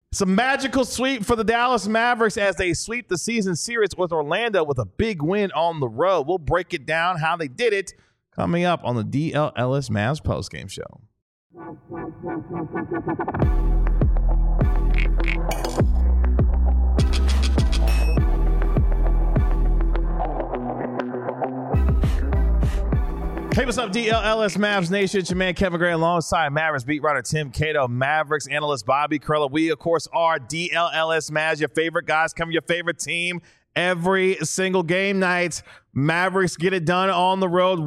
It's a magical sweep for the Dallas Mavericks as they sweep the season series with Orlando with a big win on the road. We'll break it down how they did it coming up on the DLLS Mavs postgame show. Hey, what's up, DLLS Mavs Nation? It's your man, Kevin Gray, alongside Mavericks beat writer Tim Cato, Mavericks analyst Bobby Curla. We, of course, are DLLS Mavs, your favorite guys, come your favorite team every single game night. Mavericks get it done on the road,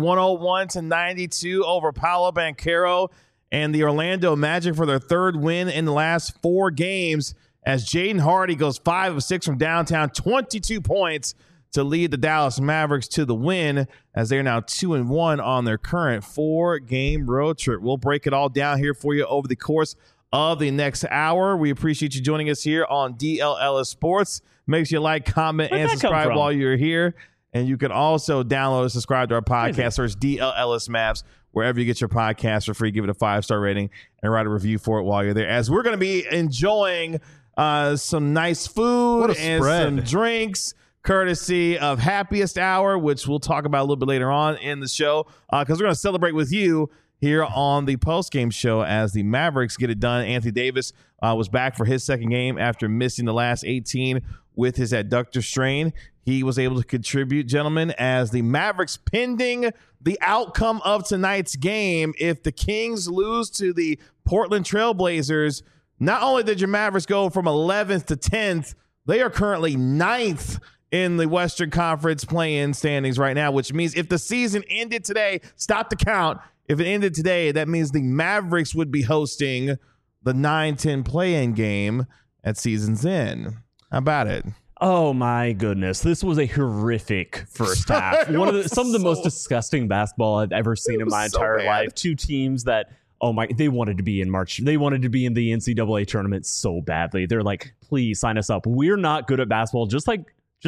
101-92 over Paolo Banchero and the Orlando Magic for their third win in the last 4 games as Jaden Hardy goes 5 of 6 from downtown, 22 points to lead the Dallas Mavericks to the win as they're now 2-1 on their current 4-game road trip. We'll break it all down here for you over the course of the next hour. We appreciate you joining us here on DLLS Sports. Make sure you like, comment, and subscribe while you're here. And you can also download and subscribe to our podcast. Search DLLS Mavs wherever you get your podcast for free. Give it a 5-star rating and write a review for it while you're there. As we're going to be enjoying some nice food and some drinks, courtesy of Happiest Hour, which we'll talk about a little bit later on in the show, because we're going to celebrate with you here on the postgame show as the Mavericks get it done. Anthony Davis was back for his second game after missing the last 18 with his adductor strain. He was able to contribute, gentlemen, as the Mavericks, pending the outcome of tonight's game. If the Kings lose to the Portland Trailblazers, not only did your Mavericks go from 11th to 10th, they are currently 9th in the Western Conference play-in standings right now, which means if the season ended today, stop the count. If it ended today, that means the Mavericks would be hosting the 9-10 play-in game at season's end. How about it? Oh my goodness. This was a horrific first half. Some of the most disgusting basketball I've ever seen in my entire life. 2 teams that, they wanted to be in March. They wanted to be in the NCAA tournament so badly. They're like, please sign us up. We're not good at basketball, just like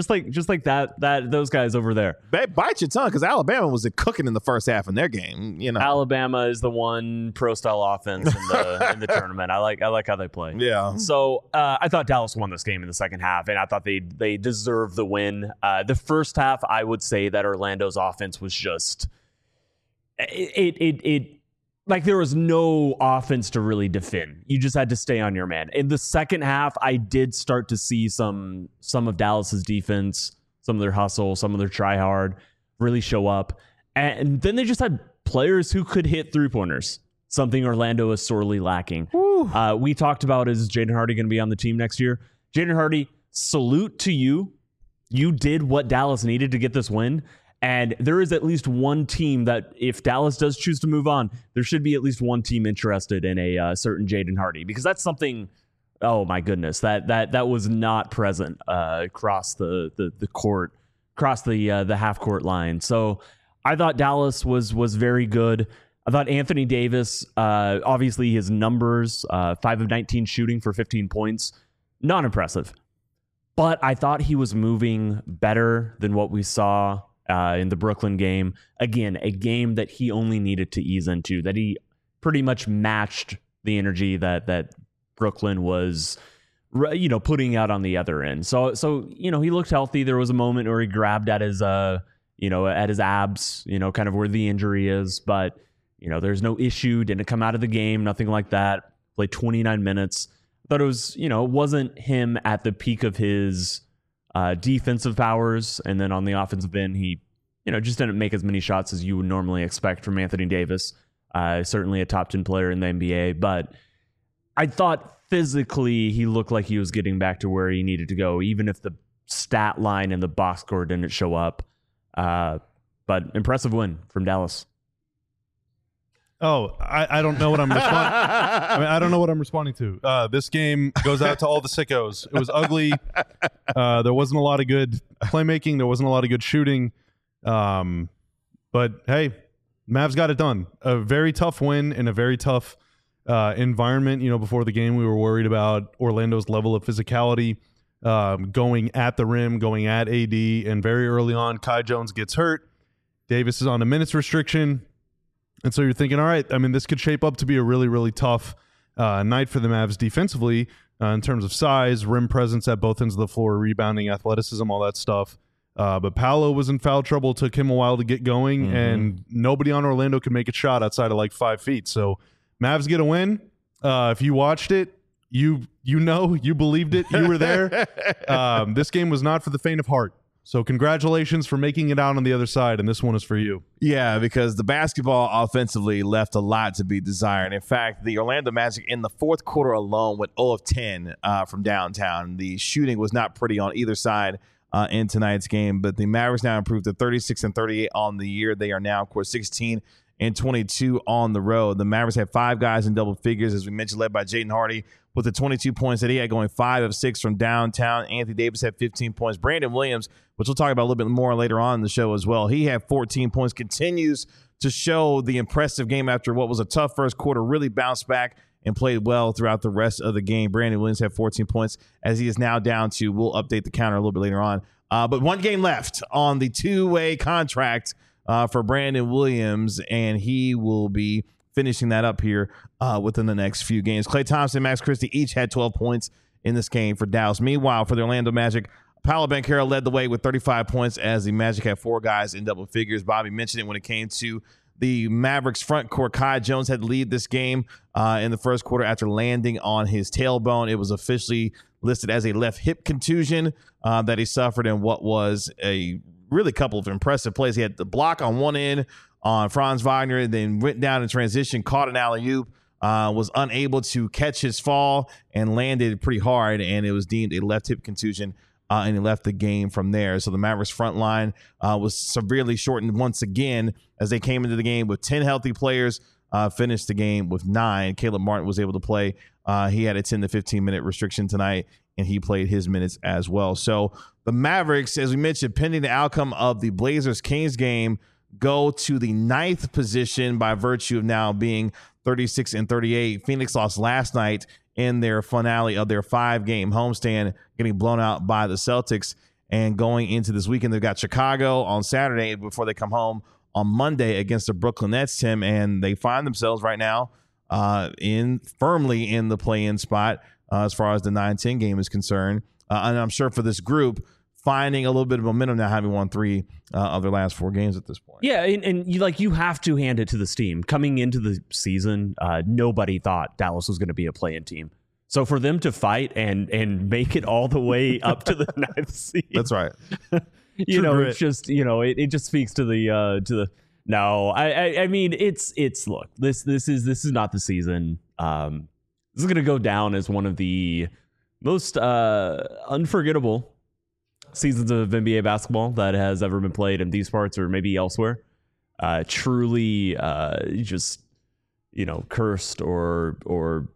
that those guys over there. Bite your tongue, because Alabama was cooking in the first half in their game. You know, Alabama is the one pro style offense in the tournament. I like how they play. Yeah. So I thought Dallas won this game in the second half, and I thought they deserved the win. The first half, I would say that Orlando's offense was just it like there was no offense to really defend. You just had to stay on your man. In the second half, I did start to see some of Dallas's defense, some of their hustle, some of their try hard really show up. And then they just had players who could hit 3-pointers, something Orlando is sorely lacking. We talked about, is Jaden Hardy going to be on the team next year? Jaden Hardy, salute to you. You did what Dallas needed to get this win. And there is at least one team that, if Dallas does choose to move on, there should be at least one team interested in a certain Jaden Hardy, because that's something. Oh my goodness, that was not present across the court, across the half court line. So I thought Dallas was very good. I thought Anthony Davis, obviously his numbers, 5 of 19 shooting for 15 points, not impressive, but I thought he was moving better than what we saw in the Brooklyn game. Again, a game that he only needed to ease into, that he pretty much matched the energy that Brooklyn was, putting out on the other end. So he looked healthy. There was a moment where he grabbed at his at his abs, kind of where the injury is, but there's no issue. Didn't come out of the game, nothing like that. Played 29 minutes. Thought it was, it wasn't him at the peak of his defensive powers, and then on the offensive end, he, just didn't make as many shots as you would normally expect from Anthony Davis. Certainly a top 10 player in the NBA, but I thought physically he looked like he was getting back to where he needed to go, even if the stat line in the box score didn't show up. But impressive win from Dallas. Oh, I don't know what I'm responding. I don't know what I'm responding to. This game goes out to all the sickos. It was ugly. There wasn't a lot of good playmaking. There wasn't a lot of good shooting. But hey, Mavs got it done. A very tough win in a very tough environment. Before the game, we were worried about Orlando's level of physicality, going at the rim, going at AD, and very early on, Kai Jones gets hurt. Davis is on a minutes restriction. And so you're thinking, all right, this could shape up to be a really, really tough night for the Mavs defensively. in terms of size, rim presence at both ends of the floor, rebounding, athleticism, all that stuff. But Paolo was in foul trouble. Took him a while to get going, and nobody on Orlando could make a shot outside of like 5 feet. So Mavs get a win. If you watched it, you believed it. You were there. This game was not for the faint of heart. So congratulations for making it out on the other side, and this one is for you. Yeah, because the basketball offensively left a lot to be desired. In fact, the Orlando Magic in the fourth quarter alone went 0 of 10 from downtown. The shooting was not pretty on either side in tonight's game, but the Mavericks now improved to 36-38 on the year. They are now, of course, 16-22 on the road. The Mavericks had 5 guys in double figures, as we mentioned, led by Jaden Hardy with the 22 points that he had, going 5 of 6 from downtown. Anthony Davis had 15 points. Brandon Williams, which we'll talk about a little bit more later on in the show as well, he had 14 points, continues to show the impressive game after what was a tough first quarter, really bounced back and played well throughout the rest of the game. Brandon Williams had 14 points, as he is now down to, we'll update the counter a little bit later on. But one game left on the 2-way contract for Brandon Williams, and he will be finishing that up here within the next few games. Klay Thompson and Max Christie each had 12 points in this game for Dallas. Meanwhile, for the Orlando Magic, Paolo Banchero led the way with 35 points as the Magic had 4 guys in double figures. Bobby mentioned it when it came to the Mavericks front court. Kai Jones had to lead this game in the first quarter after landing on his tailbone. It was officially listed as a left hip contusion that he suffered in what was a really couple of impressive plays. He had the block on one end on Franz Wagner, then went down in transition, caught an alley-oop, was unable to catch his fall and landed pretty hard, and it was deemed a left hip contusion, and he left the game from there. So the Mavericks front line was severely shortened once again as they came into the game with 10 healthy players, finished the game with 9. Caleb Martin was able to play. He had a 10 to 15-minute restriction tonight, and he played his minutes as well. So the Mavericks, as we mentioned, pending the outcome of the Blazers-Kings game, go to the 9th position by virtue of now being 36-38. Phoenix lost last night in their finale of their 5-game homestand, getting blown out by the Celtics. And going into this weekend, they've got Chicago on Saturday before they come home on Monday against the Brooklyn Nets, Tim, and they find themselves right now firmly in the play-in spot as far as the 9-10 game is concerned. And I'm sure for this group, finding a little bit of momentum now, having won 3 of their last 4 games at this point. Yeah, and you have to hand it to this team. Coming into the season, nobody thought Dallas was going to be a play-in team. So for them to fight and make it all the way up to the 9th seed, that's right. It's just it just speaks to the. No, I mean it's look, this is not the season. This is going to go down as one of the most unforgettable seasons of NBA basketball that has ever been played in these parts or maybe elsewhere. Truly just cursed or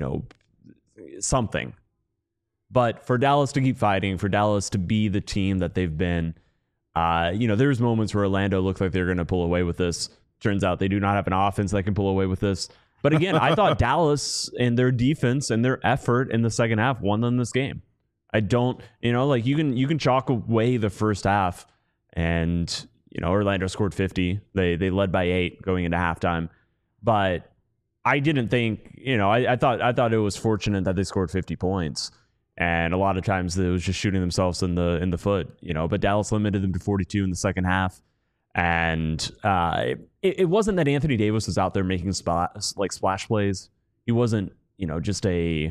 something. But for Dallas to keep fighting, for Dallas to be the team that they've been, there's moments where Orlando looked like they're going to pull away with this. Turns out they do not have an offense that can pull away with this. But again, I thought Dallas and their defense and their effort in the second half won them this game. I don't, you can chalk away the first half, and Orlando scored 50. They led by 8 going into halftime, but I didn't think, I thought it was fortunate that they scored 50 points, and a lot of times it was just shooting themselves in the foot, But Dallas limited them to 42 in the second half, and it wasn't that Anthony Davis was out there making splash plays. He wasn't, just a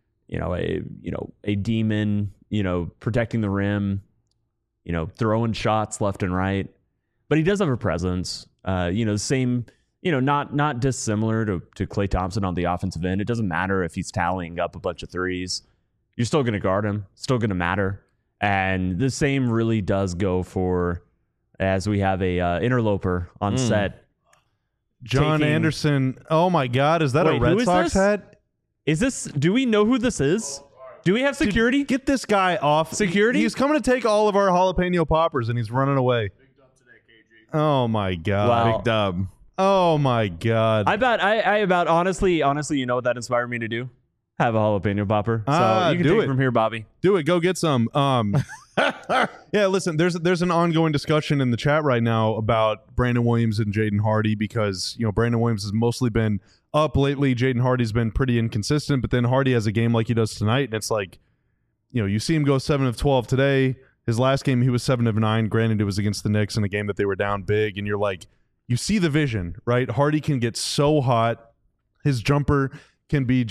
demon, protecting the rim, throwing shots left and right. But he does have a presence, the same, not dissimilar to Klay Thompson on the offensive end. It doesn't matter if he's tallying up a bunch of threes. You're still going to guard him, still going to matter. And the same really does go for, as we have a interloper on set. John Anderson. Oh my God. Is that a Red Sox hat? Is this, do we know who this is? Do we have security? Dude, get this guy off. Security? He's coming to take all of our jalapeno poppers and he's running away. Big dub today, KG. Oh my God. Wow. Big dub. Oh my God. I about honestly, you know what that inspired me to do? Have a jalapeno popper. So you can take it from here, Bobby. Do it. Go get some. Yeah, listen, there's an ongoing discussion in the chat right now about Brandon Williams and Jaden Hardy because, Brandon Williams has mostly been up lately. Jaden Hardy's been pretty inconsistent, but then Hardy has a game like he does tonight, and it's like, you see him go 7 of 12 today. His last game, he was 7 of 9. Granted, it was against the Knicks in a game that they were down big, and you're like, you see the vision, right? Hardy can get so hot. His jumper can be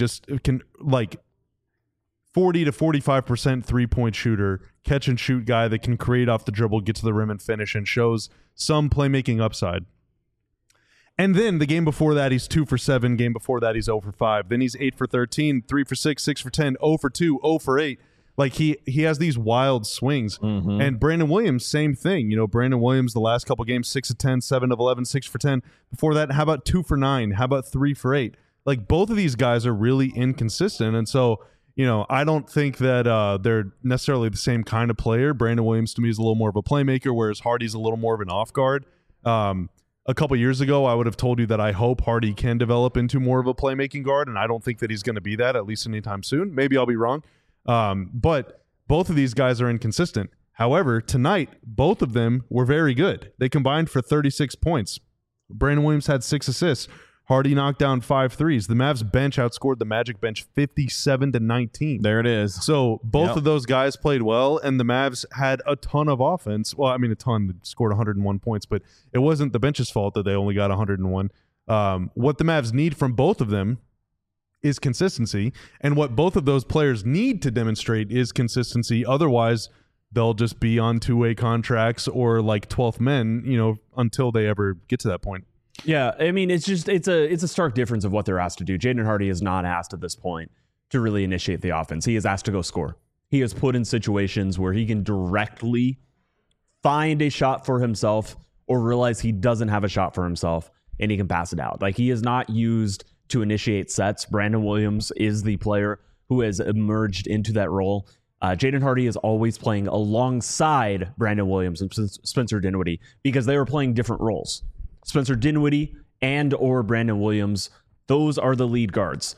40 to 45% three-point shooter, catch and shoot guy that can create off the dribble, get to the rim and finish, and shows some playmaking upside. And then the game before that, he's 2 for 7. Game before that, he's 0 for 5. Then he's 8 for 13, 3 for 6, 6 for 10, 0 for 2, 0 for 8. Like he has these wild swings. Mm-hmm. And Brandon Williams, same thing. Brandon Williams, the last couple games, 6 of 10, 7 of 11, 6 for 10. Before that, how about 2 for 9? How about 3 for 8? Like both of these guys are really inconsistent. And so, I don't think that they're necessarily the same kind of player. Brandon Williams to me is a little more of a playmaker, whereas Hardy's a little more of an off guard. A couple years ago, I would have told you that I hope Hardy can develop into more of a playmaking guard, and I don't think that he's going to be that, at least anytime soon. Maybe I'll be wrong. But both of these guys are inconsistent. However, tonight, both of them were very good. They combined for 36 points. Brandon Williams had 6 assists. Hardy knocked down 5 threes. The Mavs bench outscored the Magic bench 57-19. There it is. So both of those guys played well, and the Mavs had a ton of offense. Well, I mean, a ton. They scored 101 points, but it wasn't the bench's fault that they only got 101. What the Mavs need from both of them is consistency, and what both of those players need to demonstrate is consistency. Otherwise, they'll just be on two-way contracts or like 12th men, until they ever get to that point. Yeah, I mean, it's a stark difference of what they're asked to do. Jaden Hardy is not asked at this point to really initiate the offense. He is asked to go score. He is put in situations where he can directly find a shot for himself or realize he doesn't have a shot for himself, and he can pass it out. Like, he is not used to initiate sets. Brandon Williams is the player who has emerged into that role. Jaden Hardy is always playing alongside Brandon Williams and Spencer Dinwiddie because they were playing different roles. Spencer Dinwiddie and or Brandon Williams, those are the lead guards.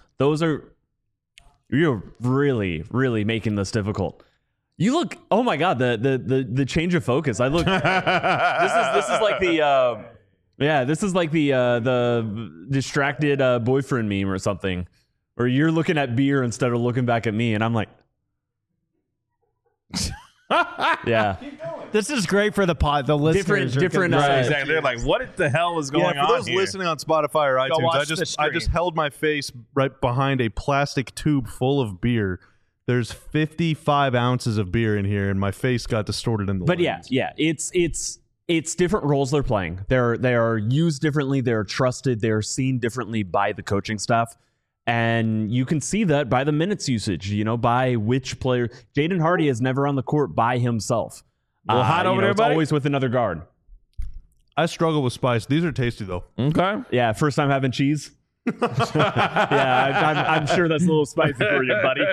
You're really, really making this difficult. You look, oh my God, the change of focus. I look, this is like the distracted boyfriend meme or something, where you're looking at beer instead of looking back at me, and I'm like, yeah. This is great for the pod. The listeners different. Exactly. They're like, what the hell is going on? For those here? listening on Spotify or iTunes, I just held my face right behind a plastic tube full of beer. There's 55 ounces of beer in here, and my face got distorted in the lens. Yeah. It's different roles they're playing. They are used differently. They're trusted. They're seen differently by the coaching staff. And you can see that by the minutes usage, by which player. Jaden Hardy is never on the court by himself. Hot over there, it's buddy? always with another guard. I struggle with spice. These are tasty, though. Okay. Yeah, first time having cheese. Yeah, I'm sure that's a little spicy for you, buddy.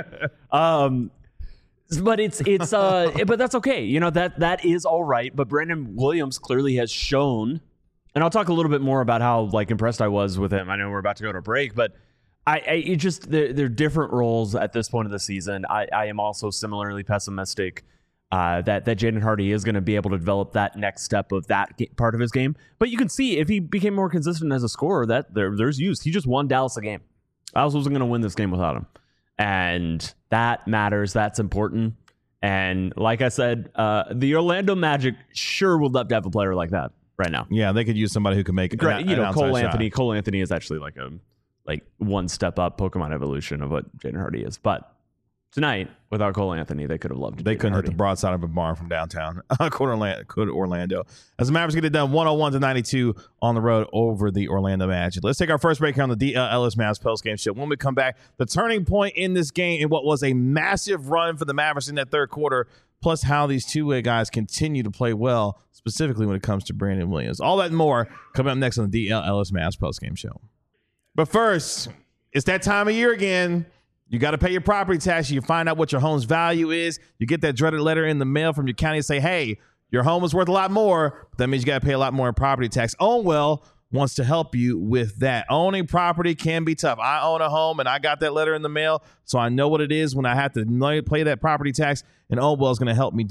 But but that's okay. That is all right. But Brandon Williams clearly has shown, and I'll talk a little bit more about how impressed I was with him. I know we're about to go to a break, but they're different roles at this point of the season. I am also similarly pessimistic that Jaden Hardy is going to be able to develop that next step of that part of his game. But you can see if he became more consistent as a scorer, that there's use. He just won Dallas a game. Dallas wasn't going to win this game without him. And that matters. That's important. And like I said, the Orlando Magic sure would love to have a player like that right now. Yeah, they could use somebody who can make Great. an Cole outside Anthony. shot. Cole Anthony is actually like one step up Pokemon evolution of what Jaden Hardy is. But tonight, without Cole Anthony, they could have loved it. They couldn't hit the broadside of a barn from downtown. Could Orlando. As the Mavericks get it done 101-92 on the road over the Orlando Magic. Let's take our first break here on the DL Ellis Mavs postgame show. When we come back, the turning point in this game in what was a massive run for the Mavericks in that third quarter, plus how these two-way guys continue to play well, specifically when it comes to Brandon Williams. All that and more coming up next on the DL Ellis Mavs postgame show. But first, it's that time of year again. You got to pay your property tax. You find out what your home's value is. You get that dreaded letter in the mail from your county and say, hey, your home is worth a lot more. That means you got to pay a lot more in property tax. Ownwell wants to help you with that. Owning property can be tough. I own a home, and I got that letter in the mail, so I know what it is when I have to pay that property tax, and Ownwell is going to help me do it.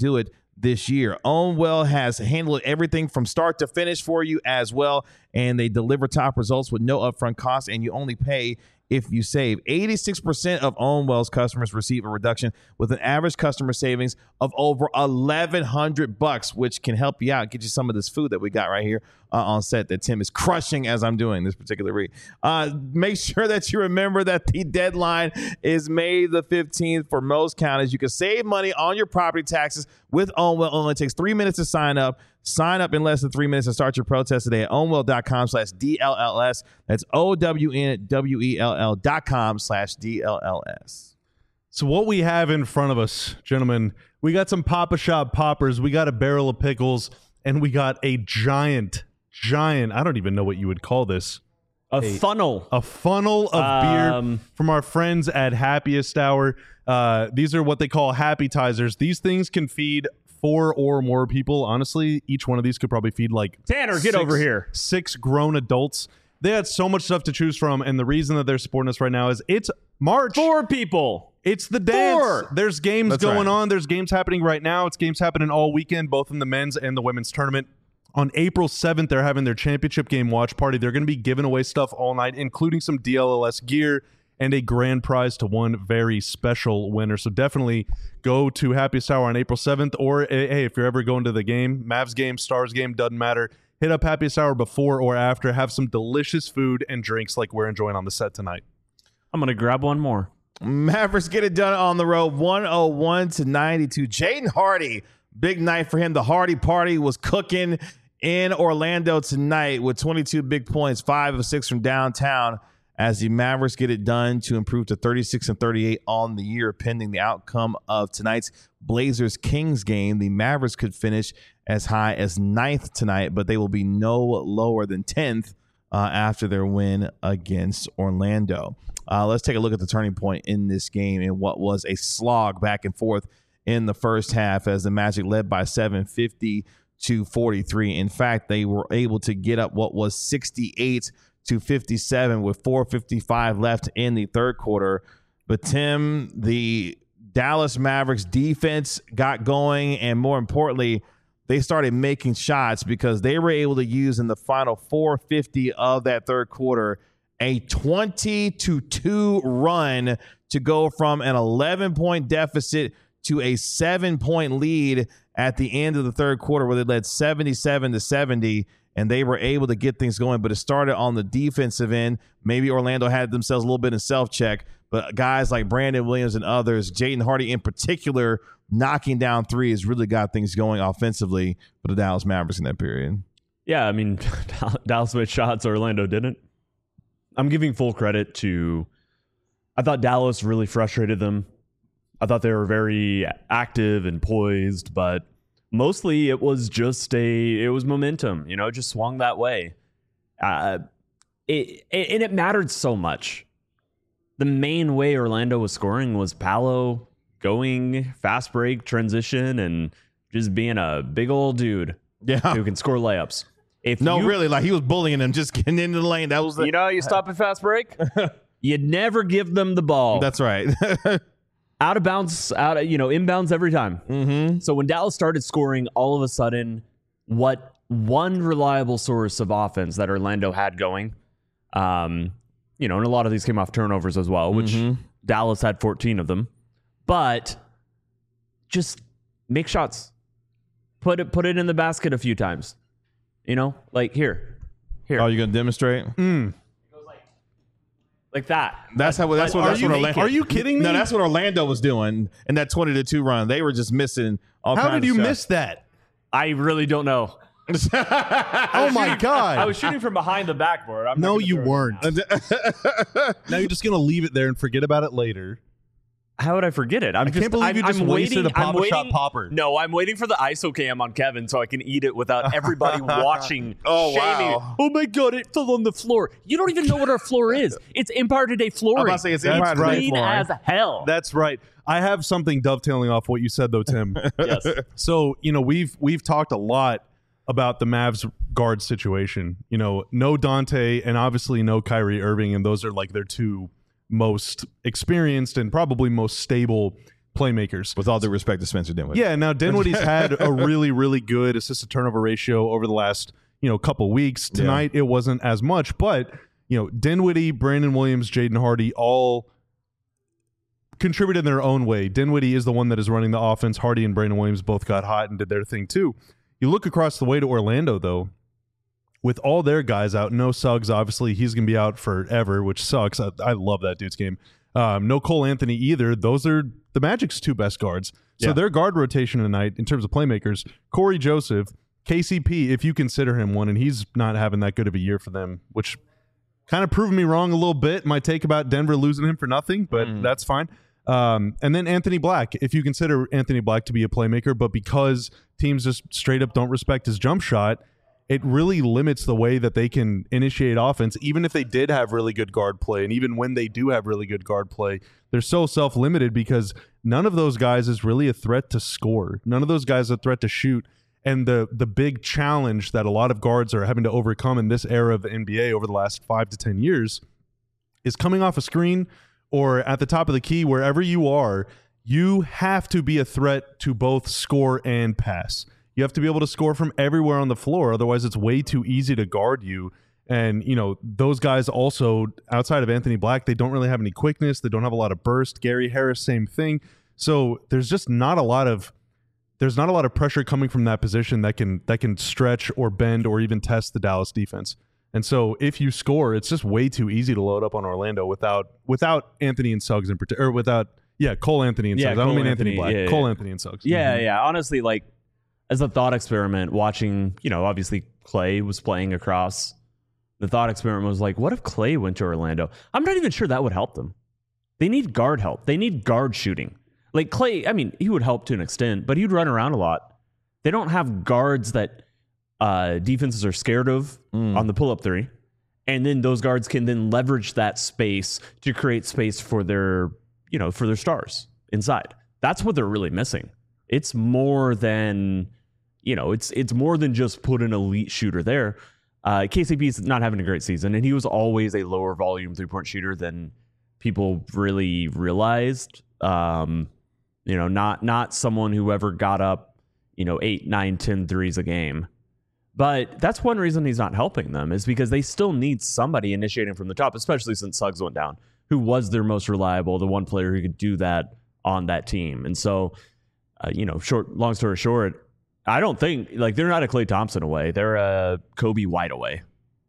this year. OwnWell has handled everything from start to finish for you as well, and they deliver top results with no upfront costs, and you only pay if you save. 86% of OwnWell's customers receive a reduction with an average customer savings of over $1,100, which can help you out, get you some of this food that we got right here on set that Tim is crushing as I'm doing this particular read. Make sure that you remember that the deadline is May the 15th for most counties. You can save money on your property taxes with OwnWell. It only takes 3 minutes to sign up. Sign up in less than 3 minutes and start your protest today at ownwell.com/DLLS. That's OWNWELL.com/DLLS. So what we have in front of us, gentlemen, we got some Papa Shop poppers, we got a barrel of pickles, and we got a giant, I don't even know what you would call this. A funnel of beer from our friends at Happiest Hour. These are what they call happytizers. These things can feed 4 or more people. Honestly, each one of these could probably feed like Tanner, get over here. 6 grown adults. They had so much stuff to choose from, and the reason that they're supporting us right now is it's March. 4 people. It's the dance. 4. There's games That's going right. on. There's games happening right now. It's games happening all weekend, both in the men's and the women's tournament. On April 7th, they're having their championship game watch party. They're going to be giving away stuff all night, including some DLLS gear and a grand prize to one very special winner. So definitely go to Happiest Hour on April 7th, or hey, if you're ever going to the game, Mavs game, Stars game, doesn't matter. Hit up Happiest Hour before or after. Have some delicious food and drinks like we're enjoying on the set tonight. I'm going to grab one more. Mavericks get it done on the road, 101-92. Jaden Hardy, big night for him. The Hardy party was cooking in Orlando tonight with 22 big points, 5 of 6 from downtown, as the Mavericks get it done to improve to 36-38 on the year, pending the outcome of tonight's Blazers-Kings game. The Mavericks could finish as high as 9th tonight, but they will be no lower than 10th after their win against Orlando. Let's take a look at the turning point in this game and what was a slog back and forth in the first half as the Magic led by 750-43. In fact, they were able to get up what was 68-57 with 4:55 left in the third quarter. But Tim, the Dallas Mavericks defense got going, and more importantly, they started making shots because they were able to use in the final 4:50 of that third quarter a 20-2 run to go from an 11-point deficit to a 7-point lead at the end of the third quarter, where they led 77-70, and they were able to get things going. But it started on the defensive end. Maybe Orlando had themselves a little bit in self-check, but guys like Brandon Williams and others, Jaden Hardy in particular, knocking down threes really got things going offensively for the Dallas Mavericks in that period. Yeah, I mean, Dallas made shots, Orlando didn't. I'm giving full credit to, I thought Dallas really frustrated them. I thought they were very active and poised, but mostly it was just it was momentum, it just swung that way. And it mattered so much. The main way Orlando was scoring was Paolo going fast break, transition, and just being a big old dude who can score layups. Really, like he was bullying them, just getting into the lane. That was you stop at fast break, you'd never give them the ball. That's right. Out of bounds, inbounds every time. Mm-hmm. So when Dallas started scoring, all of a sudden, what one reliable source of offense that Orlando had going, and a lot of these came off turnovers as well, which Dallas had 14 of them. But just make shots, put it in the basket a few times. Like here. Oh, you gonna demonstrate? Like that. That's what Orlando. Are you kidding me? No, that's what Orlando was doing in that 20-2 run. They were just missing all kinds of How did you shots. miss that? I really don't know. Oh my God. I was shooting from behind the backboard. No, you weren't. Now you're just going to leave it there and forget about it later. How would I forget it? I can't believe you just wasted a Papa Shop popper. No, I'm waiting for the ISO cam on Kevin so I can eat it without everybody watching. Oh, shaming. wow. Oh my God, it fell on the floor. You don't even know what our floor is. It's Empire Today flooring. I'm about to say it's That's Empire Today right. Clean flooring. as hell. That's right. I have something dovetailing off what you said, though, Tim. Yes. So, we've talked a lot about the Mavs guard situation. No Dante and obviously no Kyrie Irving, and those are like their two most experienced and probably most stable playmakers. With all due respect to Spencer Dinwiddie. Yeah, now Dinwiddie's had a really, really good assist to turnover ratio over the last, couple weeks. Tonight it wasn't as much, but Dinwiddie, Brandon Williams, Jaden Hardy all contributed in their own way. Dinwiddie is the one that is running the offense. Hardy and Brandon Williams both got hot and did their thing too. You look across the way to Orlando though, with all their guys out, no Suggs, obviously he's going to be out forever, which sucks. I love that dude's game. No Cole Anthony either. Those are the Magic's two best guards. So their guard rotation tonight in terms of playmakers, Corey Joseph, KCP, if you consider him one, and he's not having that good of a year for them, which kind of proved me wrong a little bit. My take about Denver losing him for nothing, but that's fine. And then Anthony Black, if you consider Anthony Black to be a playmaker, but because teams just straight up don't respect his jump shot, it really limits the way that they can initiate offense, even if they did have really good guard play. And even when they do have really good guard play, they're so self-limited because none of those guys is really a threat to score. None of those guys are a threat to shoot. And the big challenge that a lot of guards are having to overcome in this era of the NBA over the last 5 to 10 years is coming off a screen or at the top of the key, wherever you are, you have to be a threat to both score and pass. You have to be able to score from everywhere on the floor. Otherwise, it's way too easy to guard you. And, those guys also, outside of Anthony Black, they don't really have any quickness. They don't have a lot of burst. Gary Harris, same thing. So there's just not a lot of pressure coming from that position that can stretch or bend or even test the Dallas defense. And so if you score, it's just way too easy to load up on Orlando without Anthony and Suggs in particular, or without Cole Anthony and Suggs. I don't mean Anthony Black. Cole Anthony and Suggs. Yeah. Honestly, like, as a thought experiment, watching, obviously Clay was playing across. The thought experiment was like, what if Clay went to Orlando? I'm not even sure that would help them. They need guard help. They need guard shooting. Like Clay, I mean, he would help to an extent, but he'd run around a lot. They don't have guards that defenses are scared of on the pull-up three. And then those guards can then leverage that space to create space for their stars inside. That's what they're really missing. It's more than... it's more than just put an elite shooter there. KCP is not having a great season, and he was always a lower volume 3-point shooter than people really realized. Not someone who ever got up, 8, 9, 10 threes a game. But that's one reason he's not helping them, is because they still need somebody initiating from the top, especially since Suggs went down, who was their most reliable, the one player who could do that on that team. And so, long story short, I don't think they're not a Klay Thompson away. They're a Kobe White away.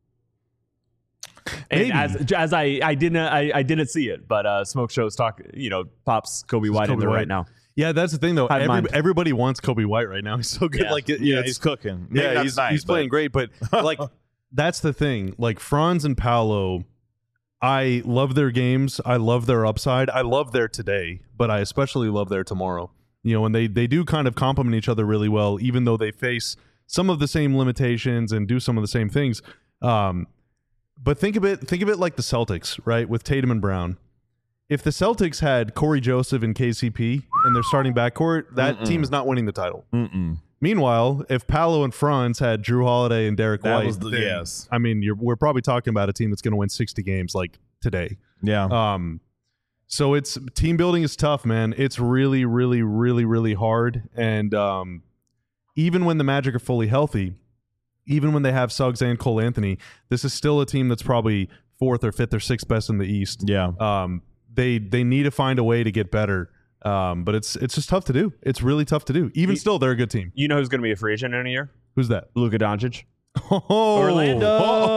And as I didn't see it, but Smoke Show's pops Kobe White in there right now. Yeah, that's the thing though. Everybody wants Kobe White right now. He's so good. He's cooking. Maybe he's playing great. But that's the thing. Like Franz and Paolo, I love their games. I love their upside. I love their today, but I especially love their tomorrow. And they do kind of complement each other really well, even though they face some of the same limitations and do some of the same things. But think of it like the Celtics, right? With Tatum and Brown. If the Celtics had Corey Joseph and KCP in their starting backcourt, that team is not winning the title. Meanwhile, if Paolo and Franz had Drew Holiday and Derek White, I mean, we're probably talking about a team that's going to win 60 games like today. Yeah. So it's team building is tough, man. It's really, really, really, really hard. And even when the Magic are fully healthy, even when they have Suggs and Cole Anthony, this is still a team that's probably 4th or 5th or 6th best in the East. Yeah. They need to find a way to get better. But it's just tough to do. It's really tough to do. Even still, they're a good team. You know who's going to be a free agent in a year? Who's that? Luka Doncic. Orlando.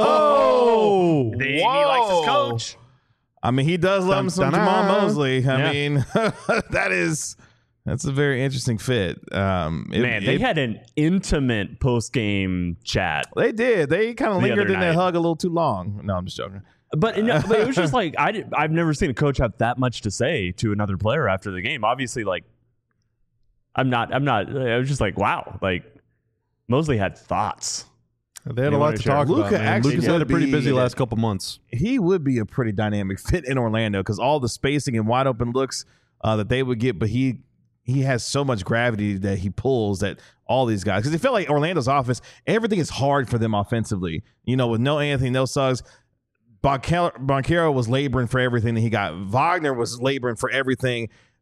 He likes his coach. I mean, he does love him some Jamal Mosley. I mean, that's a very interesting fit. They had an intimate post-game chat. They did. They kind of lingered in that hug a little too long. No, I'm just joking. But it was just like I've never seen a coach have that much to say to another player after the game. Obviously, I was just like, wow. Like Mosley had thoughts. They had a lot to talk about. Luka's had a pretty busy last couple months. He would be a pretty dynamic fit in Orlando because all the spacing and wide open looks that they would get, but he has so much gravity that he pulls that all these guys, because it felt like Orlando's offense, everything is hard for them offensively. With no Anthony, no Suggs. Banchero was laboring for everything that he got. Wagner was laboring for everything.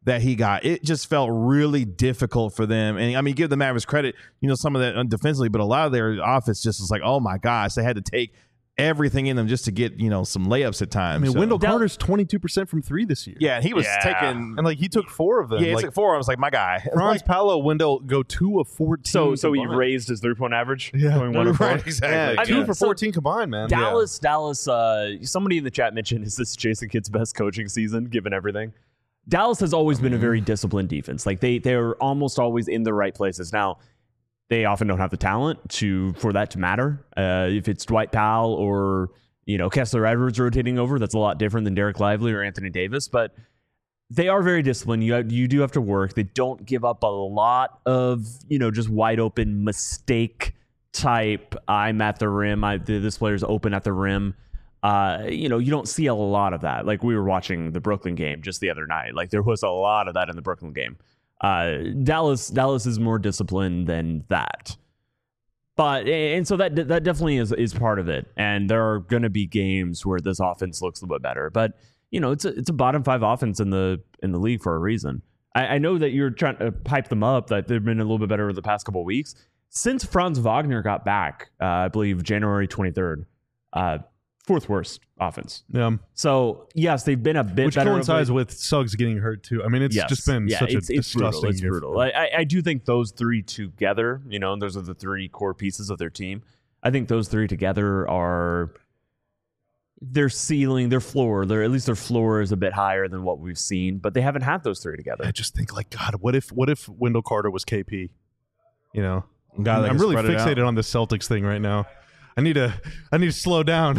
that he got. It just felt really difficult for them. And I mean, give the Mavericks credit, some of that defensively, but a lot of their offense just was like, oh my gosh, they had to take everything in them just to get, some layups at times. I mean, Wendell Carter's 22% from 3 this year. Yeah, and he was taking, and he took 4 of them. Yeah, he took 4. I was like, my guy. Franz Paolo, Wendell go 2 of 14. So he raised his 3-point average. Yeah, going 1 of 4. Right, exactly. Yeah, 2 for 14 combined, man. Dallas. Somebody in the chat mentioned, is this Jason Kidd's best coaching season, given everything? Dallas has always been a very disciplined defense. Like they're almost always in the right places. Now, they often don't have the talent for that to matter. If it's Dwight Powell or Kessler Edwards rotating over, that's a lot different than Derek Lively or Anthony Davis. But they are very disciplined. You do have to work. They don't give up a lot of just wide open mistake type. I'm at the rim. This player's open at the rim. You don't see a lot of that. Like we were watching the Brooklyn game just the other night. Like there was a lot of that in the Brooklyn game. Dallas is more disciplined than that. But and so that definitely is part of it. And there are going to be games where this offense looks a little bit better. But it's a bottom 5 offense in the league for a reason. I know that you're trying to hype them up, that they've been a little bit better over the past couple of weeks. Since Franz Wagner got back, I believe January 23rd, 4th worst offense. Yeah. So yes, they've been a bit which better. Which coincides with Suggs getting hurt too. I mean, it's just been such a disgusting It's brutal. I do think those 3 together, and those are the 3 core pieces of their team. I think those 3 together are their ceiling, their floor. At least their floor is a bit higher than what we've seen, but they haven't had those 3 together. I just think God, what if Wendell Carter was KP? God, I'm really fixated on the Celtics thing right now. I need to slow down.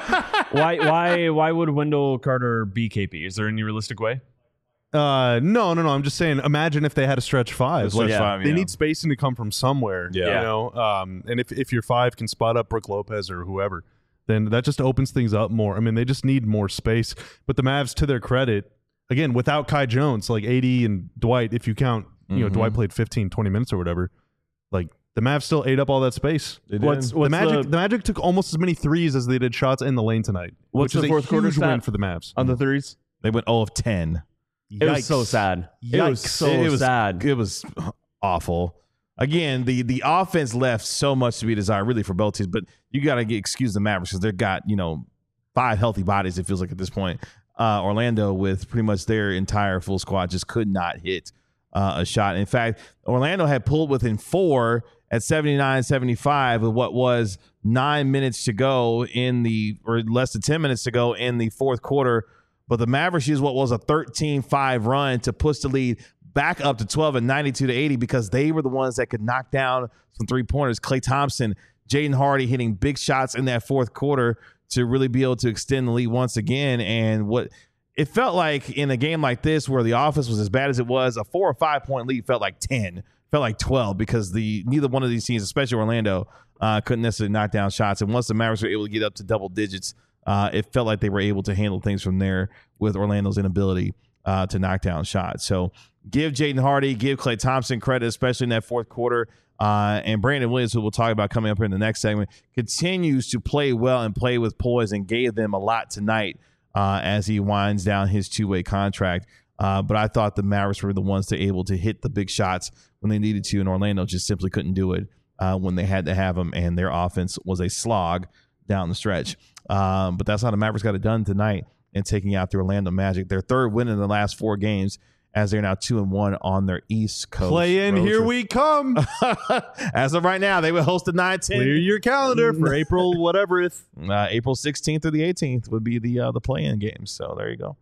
Why would Wendell Carter be KP? Is there any realistic way? No. I'm just saying. Imagine if they had a stretch 5. They need spacing to come from somewhere. Yeah. And if your 5 can spot up Brook Lopez or whoever, then that just opens things up more. I mean, they just need more space. But the Mavs, to their credit, again, without Kai Jones, like AD and Dwight, if you count, Dwight played 15, 20 minutes or whatever, the Mavs still ate up all that space. The Magic took almost as many threes as they did shots in the lane tonight. What's which the is fourth a quarter huge win for the Mavs on the threes? They went 0 of 10. It was so sad. It was so sad. It was awful. Again, the offense left so much to be desired, really, for both teams. But you got to excuse the Mavericks because they've got 5 healthy bodies. It feels like at this point. Orlando, with pretty much their entire full squad, just could not hit a shot. In fact, Orlando had pulled within 4 at 79-75 with what was 9 minutes to go or less than 10 minutes to go in the fourth quarter. But the Mavericks used what was a 13-5 run to push the lead back up to 12 at 92-80 because they were the ones that could knock down some 3-pointers. Klay Thompson, Jaden Hardy hitting big shots in that fourth quarter to really be able to extend the lead once again. And what it felt like in a game like this where the offense was as bad as it was, a 4 or 5 point lead felt like 10. Felt like 12 because neither one of these teams, especially Orlando, couldn't necessarily knock down shots. And once the Mavericks were able to get up to double digits, it felt like they were able to handle things from there with Orlando's inability to knock down shots. So give Jaden Hardy, give Klay Thompson credit, especially in that fourth quarter. And Brandon Williams, who we'll talk about coming up here in the next segment, continues to play well and play with poise and gave them a lot tonight as he winds down his 2-way contract. But I thought the Mavericks were the ones that were able to hit the big shots when they needed to, and Orlando just simply couldn't do it when they had to have them, and their offense was a slog down the stretch. But that's how the Mavericks got it done tonight in taking out the Orlando Magic. Their 3rd win in the last 4 games as they're now 2-1 on their East Coast. Play in, here we come. As of right now, they will host the 9-10. Clear your calendar for April whatever. April 16th through the 18th would be the play-in games. So there you go.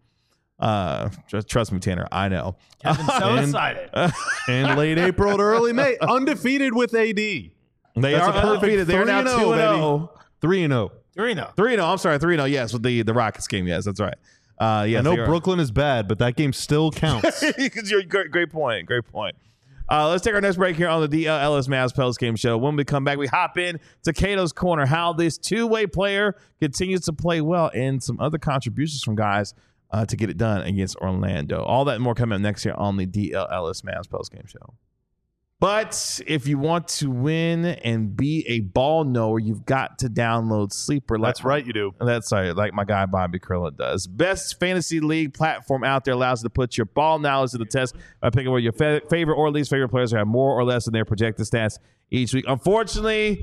Trust me, Tanner, I know. Kevin's so excited. And late April to early May, undefeated with AD. They are undefeated. They're now 2-0. 3-0. 3-0. I'm sorry, 3-0. Yes, with the Rockets game. Yes, that's right. Yes, I know Brooklyn is bad, but that game still counts. Great point. Great point. Let's take our next break here on the DLLS Mavs Post Game Show. When we come back, we hop in to Cato's Corner, how this 2-way player continues to play well and some other contributions from guys to get it done against Orlando. All that and more coming up next year on the DLLS Mavs Post Game Show. But if you want to win and be a ball knower, you've got to download Sleeper. That's right, you do. That's right, like my guy Bobby Krilla does. Best fantasy league platform out there, allows you to put your ball knowledge to the test by picking what your favorite or least favorite players have more or less in their projected stats each week. Unfortunately,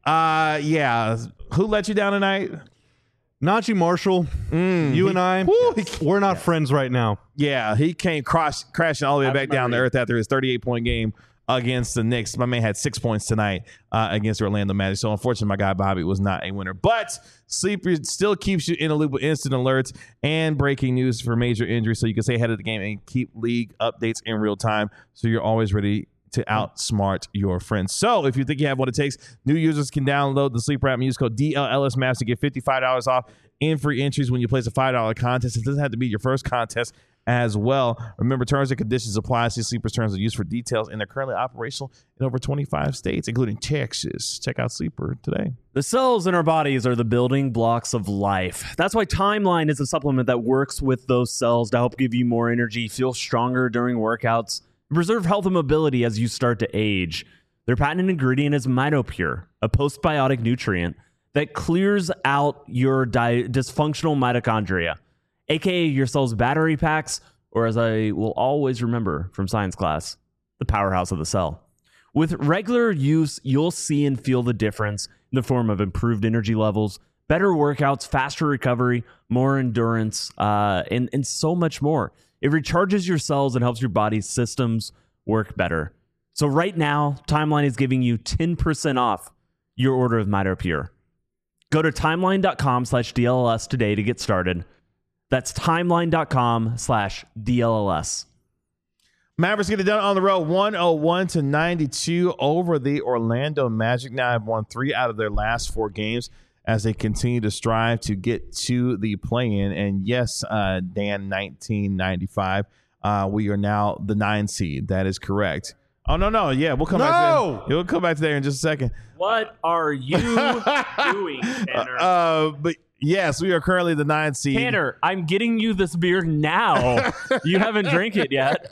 who let you down tonight? Najee Marshall, you and I, we're not friends right now. Yeah, he came crashing all the way back down to earth after his 38-point game against the Knicks. My man had 6 points tonight against the Orlando Magic. So, unfortunately, my guy Bobby was not a winner. But Sleeper still keeps you in a loop with instant alerts and breaking news for major injuries, so you can stay ahead of the game and keep league updates in real time, so you're always ready to outsmart your friends. So if you think you have what it takes, new users can download the Sleeper app and use code DLLSMAPS to get $55 off in free entries when you place a $5 contest. It doesn't have to be your first contest as well. Remember, terms and conditions apply. See Sleeper's terms of use for details, and they're currently operational in over 25 states, including Texas. Check out Sleeper today. The cells in our bodies are the building blocks of life. That's why Timeline is a supplement that works with those cells to help give you more energy, feel stronger during workouts, preserve health and mobility as you start to age. Their patented ingredient is MitoPure, a postbiotic nutrient that clears out your dysfunctional mitochondria, aka your cell's battery packs, or as I will always remember from science class, the powerhouse of the cell. With regular use, you'll see and feel the difference in the form of improved energy levels, better workouts, faster recovery, more endurance, and so much more. It recharges your cells and helps your body's systems work better. So right now, Timeline is giving you 10% off your order of MitoPure. Go to timeline.com/DLLS today to get started. That's timeline.com/DLLS. Mavericks get it done on the road, 101-92 over the Orlando Magic. Now have won 3 out of their last 4 games as they continue to strive to get to the play-in. And yes, Dan, 1995, we are now the 9 seed. That is correct. Oh, no. Yeah, we'll come back to that. We'll come back to there in just a second. What are you doing, Tanner? But yes, we are currently the 9 seed. Tanner, I'm getting you this beer now. You haven't drank it yet.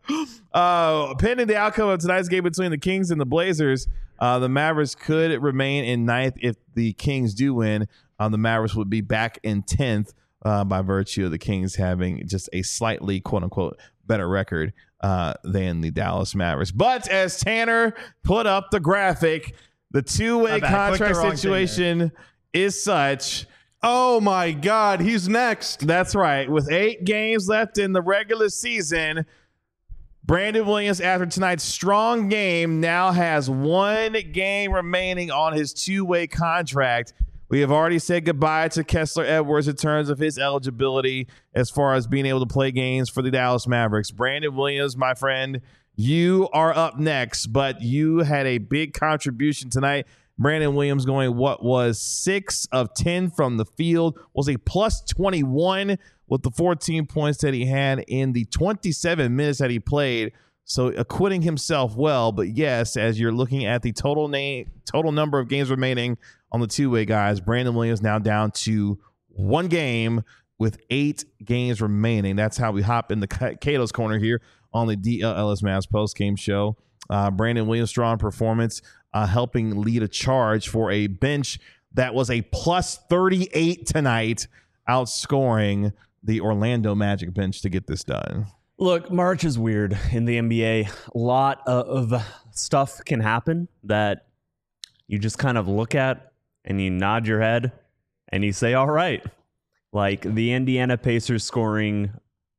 Pending the outcome of tonight's game between the Kings and the Blazers, the Mavericks could remain in 9th. If the Kings do win, the Mavericks would be back in 10th by virtue of the Kings having just a slightly, quote-unquote, better record than the Dallas Mavericks. But as Tanner put up the graphic, the two-way contract situation is such. Oh, my God. He's next. That's right. With 8 games left in the regular season, Brandon Williams, after tonight's strong game, now has 1 game remaining on his two-way contract. We have already said goodbye to Kessler Edwards in terms of his eligibility as far as being able to play games for the Dallas Mavericks. Brandon Williams, my friend, you are up next, but you had a big contribution tonight. Brandon Williams going what was 6 of 10 from the field, was a plus 21 with the 14 points that he had in the 27 minutes that he played. So acquitting himself well, but yes, as you're looking at the total number of games remaining on the two-way guys, Brandon Williams now down to 1 game with 8 games remaining. That's how we hop in the Cato's Corner here on the DLLS Mavs post-game show. Brandon Williams' strong performance, helping lead a charge for a bench that was a plus 38 tonight, outscoring the Orlando Magic bench to get this done. Look, March is weird in the NBA. A lot of stuff can happen that you just kind of look at and you nod your head and you say, all right. Like the Indiana Pacers scoring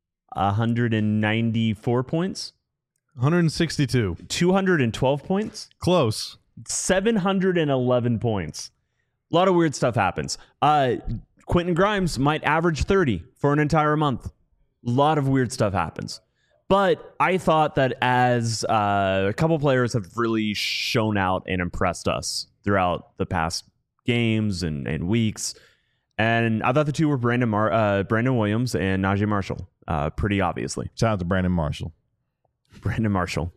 194 points. 162. 212 points. Close. 711 points. A lot of weird stuff happens. Quentin Grimes might average 30 for an entire month. A lot of weird stuff happens. But I thought that as a couple players have really shown out and impressed us throughout the past games and weeks. And I thought the two were Brandon Williams and Najee Marshall, pretty obviously. Shout out to Brandon Marshall. Brandon Marshall.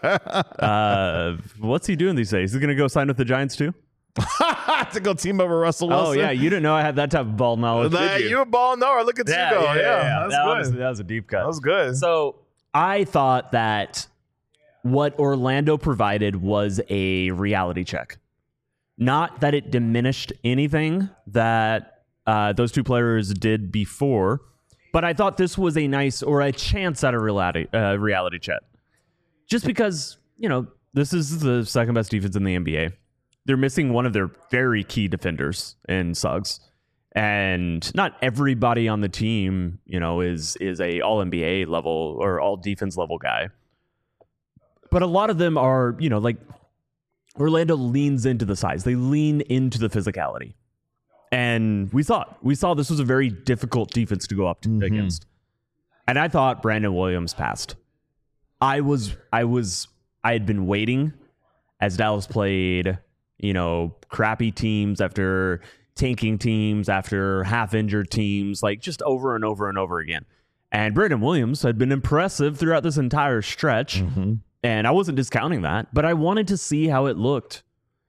What's he doing these days? Is he going to go sign with the Giants too? To go team up with Russell Wilson. Oh, yeah. You didn't know I had that type of ball knowledge, did you? You're a ball knower. Look at you go. Yeah. That's good. Honestly, that was a deep cut. That was good. So I thought that what Orlando provided was a reality check. Not that it diminished anything that those two players did before, but I thought this was a nice or a chance at a reality check. Just because, this is the second best defense in the NBA. They're missing one of their very key defenders in Suggs. And not everybody on the team, is a all NBA level or all defense level guy. But a lot of them are, like Orlando leans into the size. They lean into the physicality. And we saw this was a very difficult defense to go up against. And I thought Brandon Williams passed. I had been waiting as Dallas played, crappy teams after tanking teams, after half-injured teams, like just over and over and over again. And Brandon Williams had been impressive throughout this entire stretch, and I wasn't discounting that, but I wanted to see how it looked.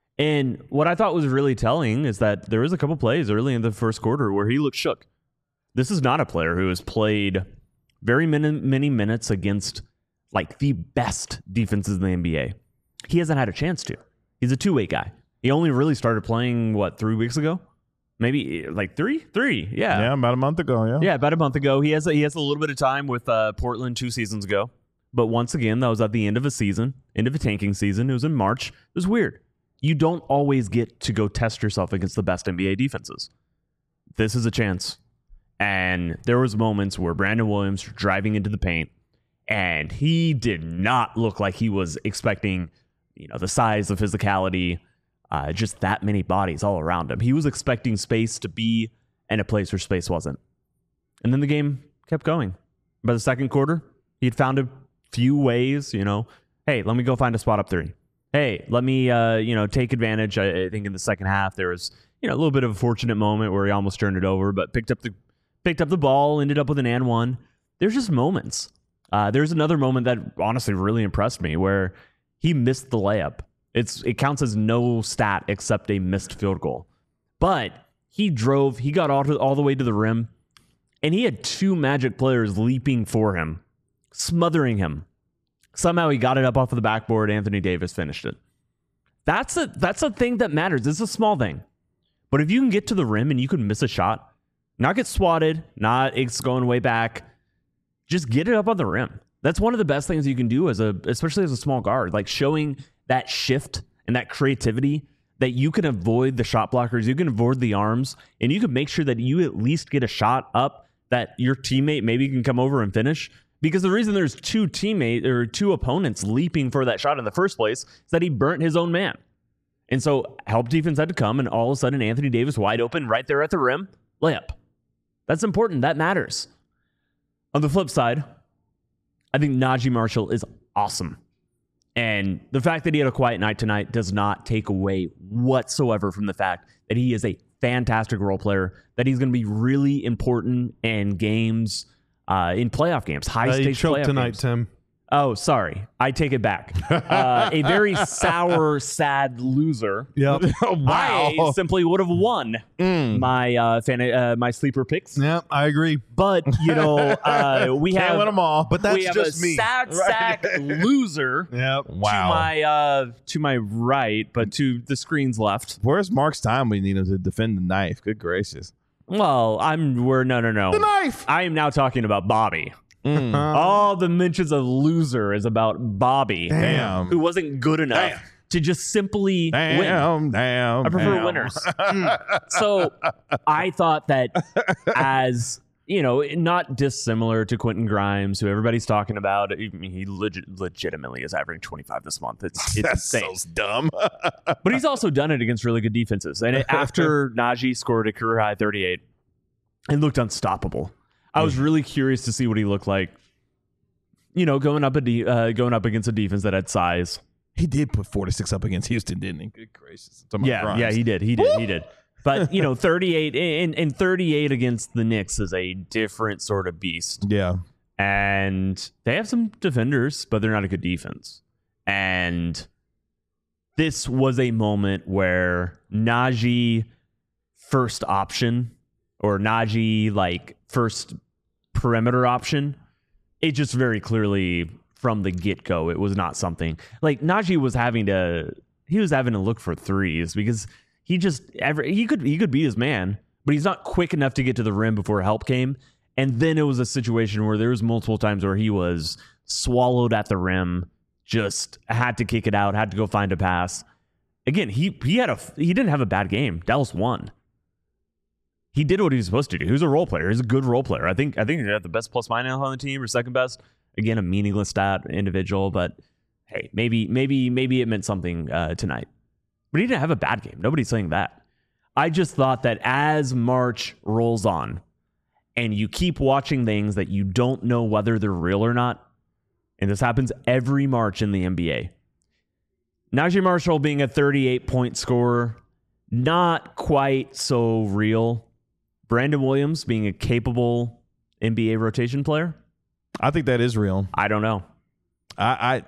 And what I thought was really telling is that there was a couple plays early in the first quarter where he looked shook. This is not a player who has played very many minutes against like the best defenses in the NBA. He hasn't had a chance to. He's a two-way guy. He only really started playing, 3 weeks ago? Maybe like three? Yeah. Yeah, about a month ago, yeah. Yeah, about a month ago. He has a little bit of time with Portland 2 seasons ago. But once again, that was at the end of a season, end of a tanking season. It was in March. It was weird. You don't always get to go test yourself against the best NBA defenses. This is a chance. And there was moments where Brandon Williams was driving into the paint, and he did not look like he was expecting, the size, the physicality, just that many bodies all around him. He was expecting space to be in a place where space wasn't. And then the game kept going. By the second quarter, he had found a few ways, hey, let me go find a spot up three. Hey, let me, take advantage. I think in the second half, there was, a little bit of a fortunate moment where he almost turned it over, but picked up the ball, ended up with an and one. There's just moments. There's another moment that honestly really impressed me where he missed the layup. It counts as no stat except a missed field goal. But he got all the way to the rim, and he had two Magic players leaping for him, smothering him. Somehow he got it up off of the backboard. Anthony Davis finished it. That's a thing that matters. It's a small thing. But if you can get to the rim and you can miss a shot, not get swatted, not it's going way back, just get it up on the rim. That's one of the best things you can do especially as a small guard, like showing that shift and that creativity that you can avoid the shot blockers, you can avoid the arms, and you can make sure that you at least get a shot up that your teammate maybe can come over and finish. Because the reason there's two opponents leaping for that shot in the first place is that he burnt his own man. And so help defense had to come, and all of a sudden Anthony Davis wide open right there at the rim, layup. That's important. That matters. On the flip side, I think Najee Marshall is awesome. And the fact that he had a quiet night tonight does not take away whatsoever from the fact that he is a fantastic role player, that he's going to be really important in games, in playoff games, high-stakes choked playoff tonight, games. Tim. Oh, sorry. I take it back. A very sour, sad loser. Yep. Wow. I simply would have won my sleeper picks. Yep, I agree. But, we Can't have win them all. But that's we have just a me. sad sack loser Yep. Wow. to my right, but to the screen's left. Where's Mark's time when you need him to defend the knife? Good gracious. Well, no. The knife! I am now talking about Bobby. All the mentions of loser is about Bobby, Damn. who wasn't good enough to just simply win. Damn. I prefer winners. So I thought that as, not dissimilar to Quentin Grimes, who everybody's talking about, he legitimately is averaging 25 this month. It's That's insane. so dumb. But he's also done it against really good defenses. And after Najee scored a career high 38, it looked unstoppable. I was really curious to see what he looked like, going up against a defense that had size. He did put 46 up against Houston, didn't he? Good gracious. Yeah, he did. But 38 and 38 against the Knicks is a different sort of beast. Yeah. And they have some defenders, but they're not a good defense. And this was a moment where Najee first option, or Najee first perimeter option, it just very clearly from the get-go. It was not something like Najee was having to look for threes because he could be his man, but he's not quick enough to get to the rim before help came. And then it was a situation where there was multiple times where he was swallowed at the rim, just had to kick it out, had to go find a pass. Again, he didn't have a bad game. Dallas won. He did what he was supposed to do. He was a role player. He's a good role player. I think he had the best plus minus on the team or second best. Again, a meaningless stat individual, but hey, maybe it meant something tonight. But he didn't have a bad game. Nobody's saying that. I just thought that as March rolls on and you keep watching things that you don't know whether they're real or not, and this happens every March in the NBA. Najee Marshall being a 38-point scorer, not quite so real. Brandon Williams being a capable NBA rotation player. I think that is real. I don't know. I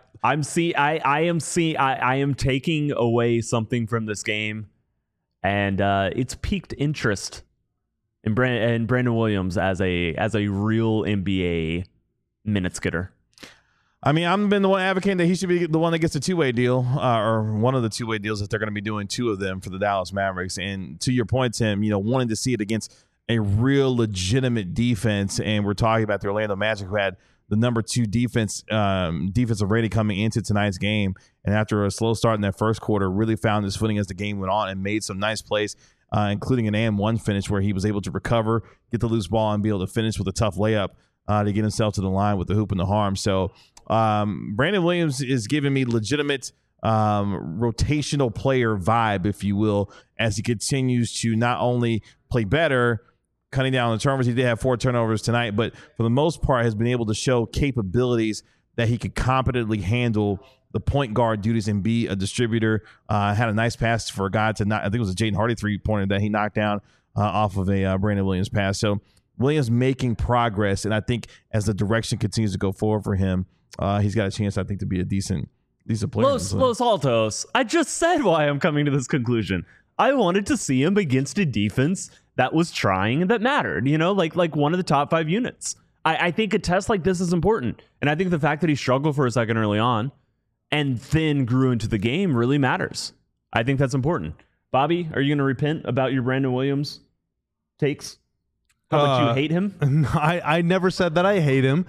am taking away something from this game, and it's piqued interest in Brandon Williams as a real NBA minutes getter. I mean, I've been the one advocating that he should be the one that gets a two-way deal, or one of the two-way deals that they're going to be doing, two of them for the Dallas Mavericks. And to your point, Tim, wanting to see it against a real legitimate defense, and we're talking about the Orlando Magic, who had the number 2 defensive rating coming into tonight's game, and after a slow start in that first quarter, really found his footing as the game went on and made some nice plays, including an and-1 finish where he was able to recover, get the loose ball, and be able to finish with a tough layup to get himself to the line with the hoop and the harm. So Brandon Williams is giving me legitimate rotational player vibe, if you will, as he continues to not only play better, cutting down on the turnovers. He did have 4 turnovers tonight, but for the most part has been able to show capabilities that he could competently handle the point guard duties and be a distributor. Had a nice pass for a guy to I think it was a Jaden Hardy 3-pointer that he knocked down off of a Brandon Williams pass. So Williams making progress, and I think as the direction continues to go forward for him, he's got a chance, I think, to be a decent player. Los Altos, I just said why I'm coming to this conclusion. I wanted to see him against a defense that was trying and that mattered, like one of the top 5 units. I think a test like this is important. And I think the fact that he struggled for a second early on and then grew into the game really matters. I think that's important. Bobby, are you going to repent about your Brandon Williams takes? How much you hate him? I never said that I hate him.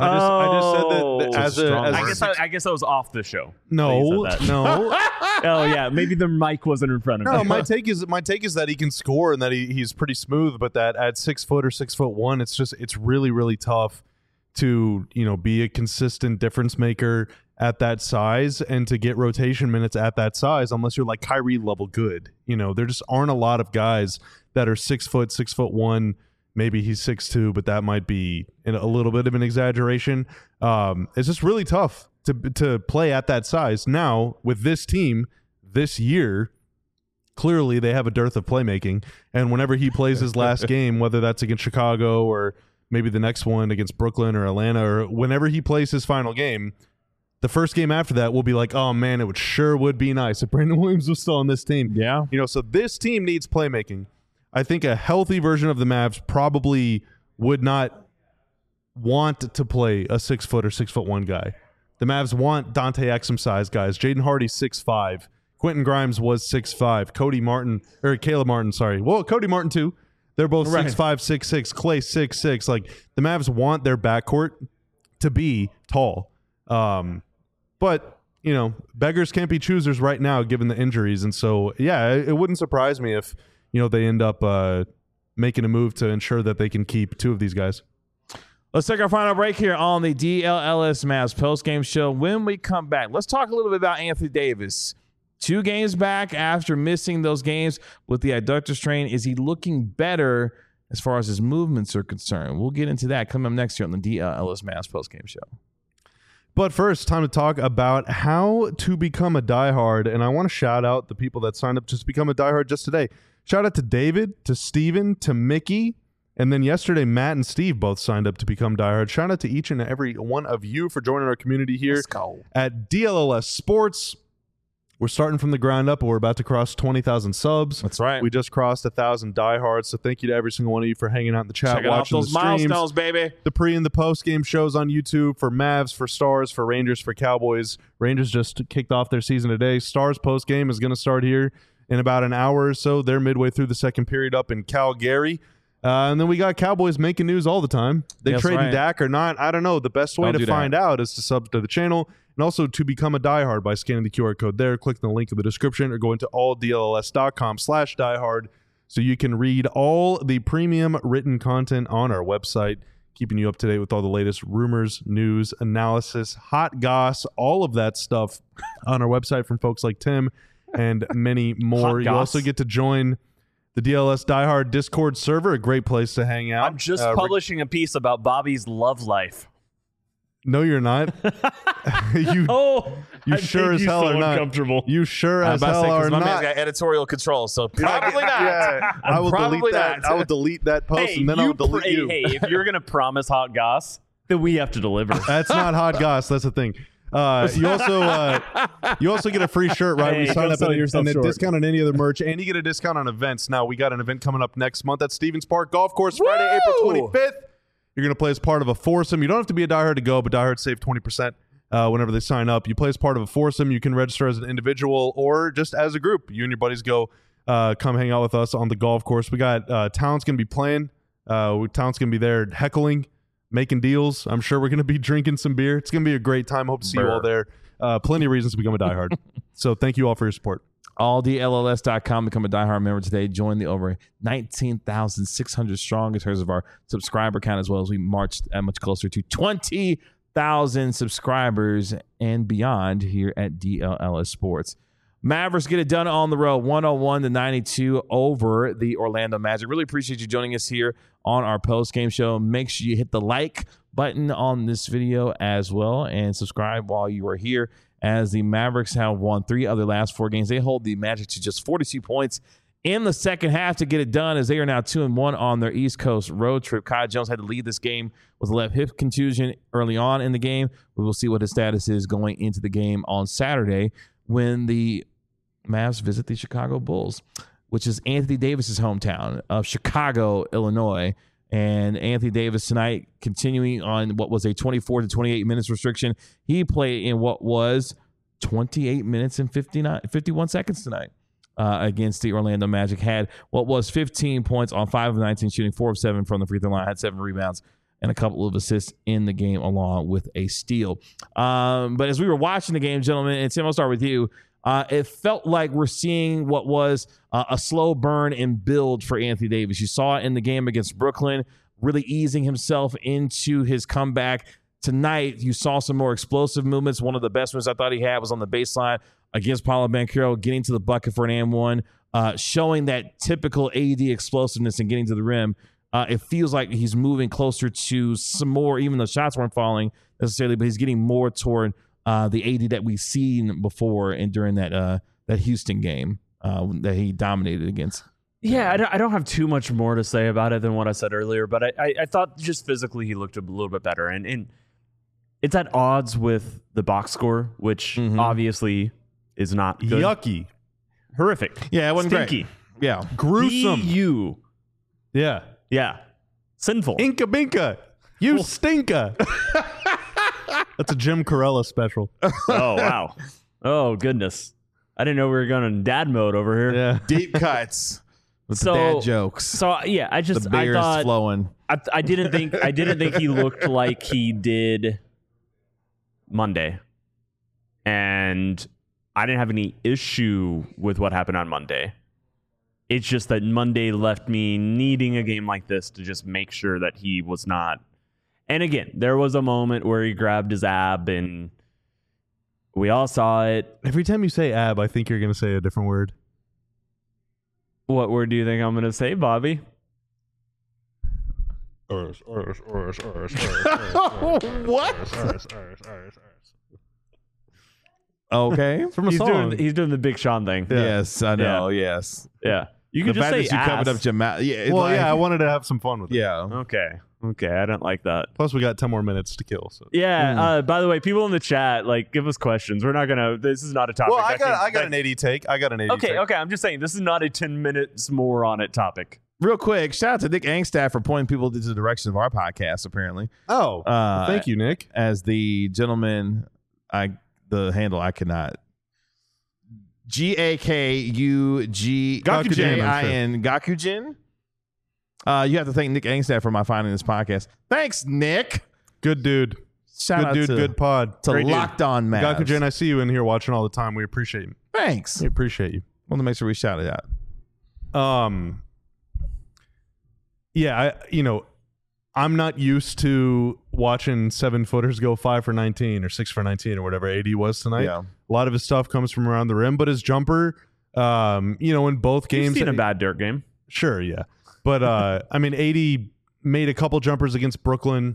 I just said that I guess I was off the show. No. Oh yeah, maybe the mic wasn't in front of me. No, my take is that he can score and that he's pretty smooth, but that at 6 foot or 6'1", it's really, really tough to be a consistent difference maker at that size and to get rotation minutes at that size unless you're like Kyrie level good. There just aren't a lot of guys that are 6 foot, 6'1". Maybe he's 6'2", but that might be a little bit of an exaggeration. It's just really tough to play at that size. Now, with this team this year, clearly they have a dearth of playmaking. And whenever he plays his last game, whether that's against Chicago or maybe the next one against Brooklyn or Atlanta, or whenever he plays his final game, the first game after that will be like, oh, man, it would be nice if Brandon Williams was still on this team. Yeah. So this team needs playmaking. I think a healthy version of the Mavs probably would not want to play a 6 foot or 6'1" guy. The Mavs want Dante Exum size guys. Jaden Hardy 6'5". Quentin Grimes was 6'5". Caleb Martin, sorry. Well, Cody Martin too. They're both 6'5", 6'6". Clay 6'6". Like the Mavs want their backcourt to be tall. But beggars can't be choosers right now given the injuries, and so yeah, it wouldn't surprise me if they end up making a move to ensure that they can keep 2 of these guys. Let's take our final break here on the DLLS Mavs postgame show. When we come back, let's talk a little bit about Anthony Davis. 2 games back after missing those games with the adductor strain. Is he looking better as far as his movements are concerned? We'll get into that coming up next year on the DLLS Mavs postgame show. But first, time to talk about how to become a diehard. And I want to shout out the people that signed up to become a diehard just today. Shout out to David, to Steven, to Mickey, and then yesterday Matt and Steve both signed up to become diehard. Shout out to each and every one of you for joining our community here at DLLS Sports. We're starting from the ground up, and we're about to cross 20,000 subs. That's right. We just crossed 1,000 diehards, so thank you to every single one of you for hanging out in the chat, Checking out watching those the streams. milestones, baby. The pre and the post game shows on YouTube for Mavs, for Stars, for Rangers, for Cowboys. Rangers just kicked off their season today. Stars post game is going to start here in about an hour or so. They're midway through the second period up in Calgary. And then we got Cowboys making news all the time. They That's trading right. Dak or not, I don't know. The best way Don't to do that. find out is to sub to the channel and also to become a diehard by scanning the QR code there, clicking the link in the description, or going to alldlls.com/diehard so you can read all the premium written content on our website, keeping you up to date with all the latest rumors, news, analysis, hot goss, all of that stuff on our website from folks like Tim and many more. Hot You also goss. get to join the DLS Diehard Discord server, a great place to hang out. I'm just publishing a piece about Bobby's love life. No, you're not. you Oh, you I sure made as you hell so are not. uncomfortable. You sure I'm as about to hell say, 'cause are my man's not. got editorial control, so probably not. Yeah, I will delete Probably that. not. I will delete that post, Hey, and then I'll delete you. Hey, if you're gonna promise hot goss, then we have to deliver. That's not hot goss. That's the thing. You also get a free shirt, right? Hey, We sign don't up sell and yourself a short. discount on any other merch, and you get a discount on events. Now we got an event coming up next month at Stevens Park Golf Course, Friday, April 25th. You're going to play as part of a foursome. You don't have to be a diehard to go, but diehards save 20% whenever they sign up. You play as part of a foursome. You can register as an individual or just as a group. You and your buddies go come hang out with us on the golf course. We got Talent's going to be playing. Talent's going to be there heckling, making deals. I'm sure we're going to be drinking some beer. It's going to be a great time. Hope to see you all there. Plenty of reasons to become a diehard. So thank you all for your support. AllDLLS.com. Become a diehard member today. Join the over 19,600 strong in terms of our subscriber count, as well as we marched much closer to 20,000 subscribers and beyond here at DLLS Sports. Mavericks get it done on the road, 101-92 over the Orlando Magic. Really appreciate you joining us here on our post-game show. Make sure you hit the like button on this video as well and subscribe while you are here, as the Mavericks have won 3 of their last 4 games. They hold the Magic to just 42 points in the second half to get it done, as they are now 2-1 on their East Coast road trip. Kai Jones had to lead this game with a left hip contusion early on in the game. We will see what his status is going into the game on Saturday when the Mavs visit the Chicago Bulls, which is Anthony Davis's hometown of Chicago, Illinois. And Anthony Davis tonight, continuing on what was a 24 to 28 minutes restriction. He played in what was 28 minutes and 51 seconds tonight against the Orlando Magic. Had what was 15 points on 5 of 19 shooting, 4 of 7 from the free throw line, had 7 rebounds and a couple of assists in the game, along with a steal. But as we were watching the game, gentlemen, and Tim, I'll start with you. It felt like we're seeing what was a slow burn and build for Anthony Davis. You saw it in the game against Brooklyn, really easing himself into his comeback. Tonight, you saw some more explosive movements. One of the best ones I thought he had was on the baseline against Paolo Banchero, getting to the bucket for an and-one, showing that typical AD explosiveness and getting to the rim. It feels like he's moving closer to some more, even though shots weren't falling necessarily, but he's getting more toward the AD that we've seen before and during that Houston game that he dominated against. Yeah, I don't have too much more to say about it than what I said earlier, but I thought just physically he looked a little bit better. And it's at odds with the box score, which obviously is not good. Yucky. Horrific. Yeah, it wasn't Stinky. great. Yeah. Gruesome. You. Yeah. Yeah. Sinful. Inka Binka. You stinka. That's a Jim Corella special. Oh, wow. Oh, goodness. I didn't know we were going in dad mode over here. Yeah. Deep cuts with So- the dad jokes. So, yeah, I The just, beer I is thought, flowing. I didn't think he looked like he did Monday. And I didn't have any issue with what happened on Monday. It's just that Monday left me needing a game like this to just make sure that he was not. And again, there was a moment where he grabbed his ab and we all saw it. Every time you say ab, I think you're going to say a different word. What word do you think I'm going to say, Bobby? What? Okay. From a song. He's doing the Big Sean thing. Yeah. Yes, I know. Yes. Yeah. You The can just fact say that you ass. covered up your mouth. Yeah. Well, yeah, I wanted to have some fun with it. Yeah. Okay. Okay, I don't like that. Plus, we got 10 more minutes to kill. So. Yeah. By the way, people in the chat, like, give us questions. We're not gonna. This is not a topic. Well, I got an 80 take. Okay. I'm just saying this is not a 10 minutes more on it topic. Real quick, shout out to Nick Angstaff for pointing people to the direction of our podcast, apparently. Oh, thank you, Nick. As the gentleman, the handle I cannot. GAKUGJIN. Gakujin. You have to thank Nick Angstaff for my finding this podcast. Thanks, Nick. Good dude. Shout out good dude, to, good pod. to Great Locked On Mavs. Gakujin, I see you in here watching all the time. We appreciate you. Thanks. We appreciate you. Want to make sure we shout it out. Yeah, I'm not used to watching 7-footers go 5 for 19 or 6 for 19 or whatever AD was tonight. Yeah. A lot of his stuff comes from around the rim, but his jumper, in both games. You've seen a bad Dirk game. Sure, yeah. But, AD made a couple jumpers against Brooklyn.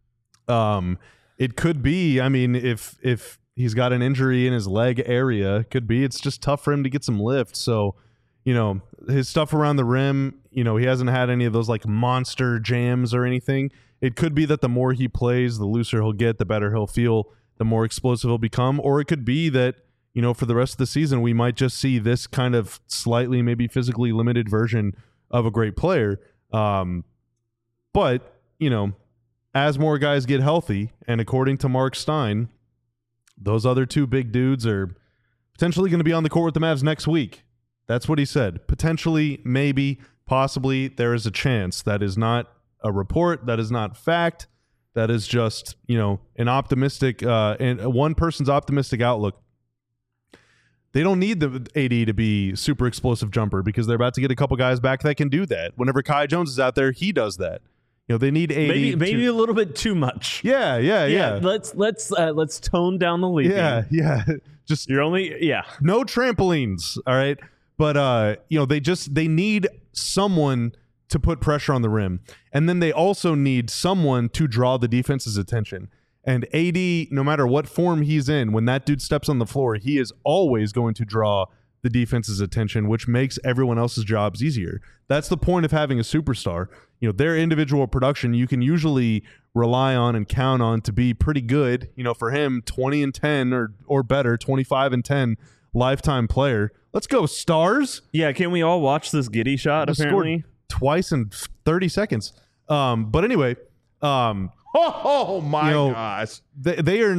It could be, if he's got an injury in his leg area, it could be it's just tough for him to get some lift. So, his stuff around the rim, he hasn't had any of those like monster jams or anything. It could be that the more he plays, the looser he'll get, the better he'll feel, the more explosive he'll become. Or it could be that, for the rest of the season, we might just see this kind of slightly maybe physically limited version of a great player. But, as more guys get healthy, and according to Mark Stein, those other two big dudes are potentially going to be on the court with the Mavs next week. That's what he said. Potentially, maybe, possibly, there is a chance. That is not a report. That is not fact. That is just, an optimistic, and one person's optimistic outlook. They don't need the AD to be super explosive jumper because they're about to get a couple guys back that can do that. Whenever Kai Jones is out there, he does that. They need AD. Maybe a little bit too much. Yeah. Let's tone down the lead. Yeah. Just no trampolines. All right. But they need someone to put pressure on the rim. And then they also need someone to draw the defense's attention. And AD, no matter what form he's in, when that dude steps on the floor, he is always going to draw the defense's attention, which makes everyone else's jobs easier. That's the point of having a superstar. Their individual production you can usually rely on and count on to be pretty good. For him, 20-10 or better, 25-10 lifetime player. Let's go, Stars. Yeah, can we all watch this Giddey shot, apparently? Scored twice in 30 seconds. But anyway, oh my gosh. They are,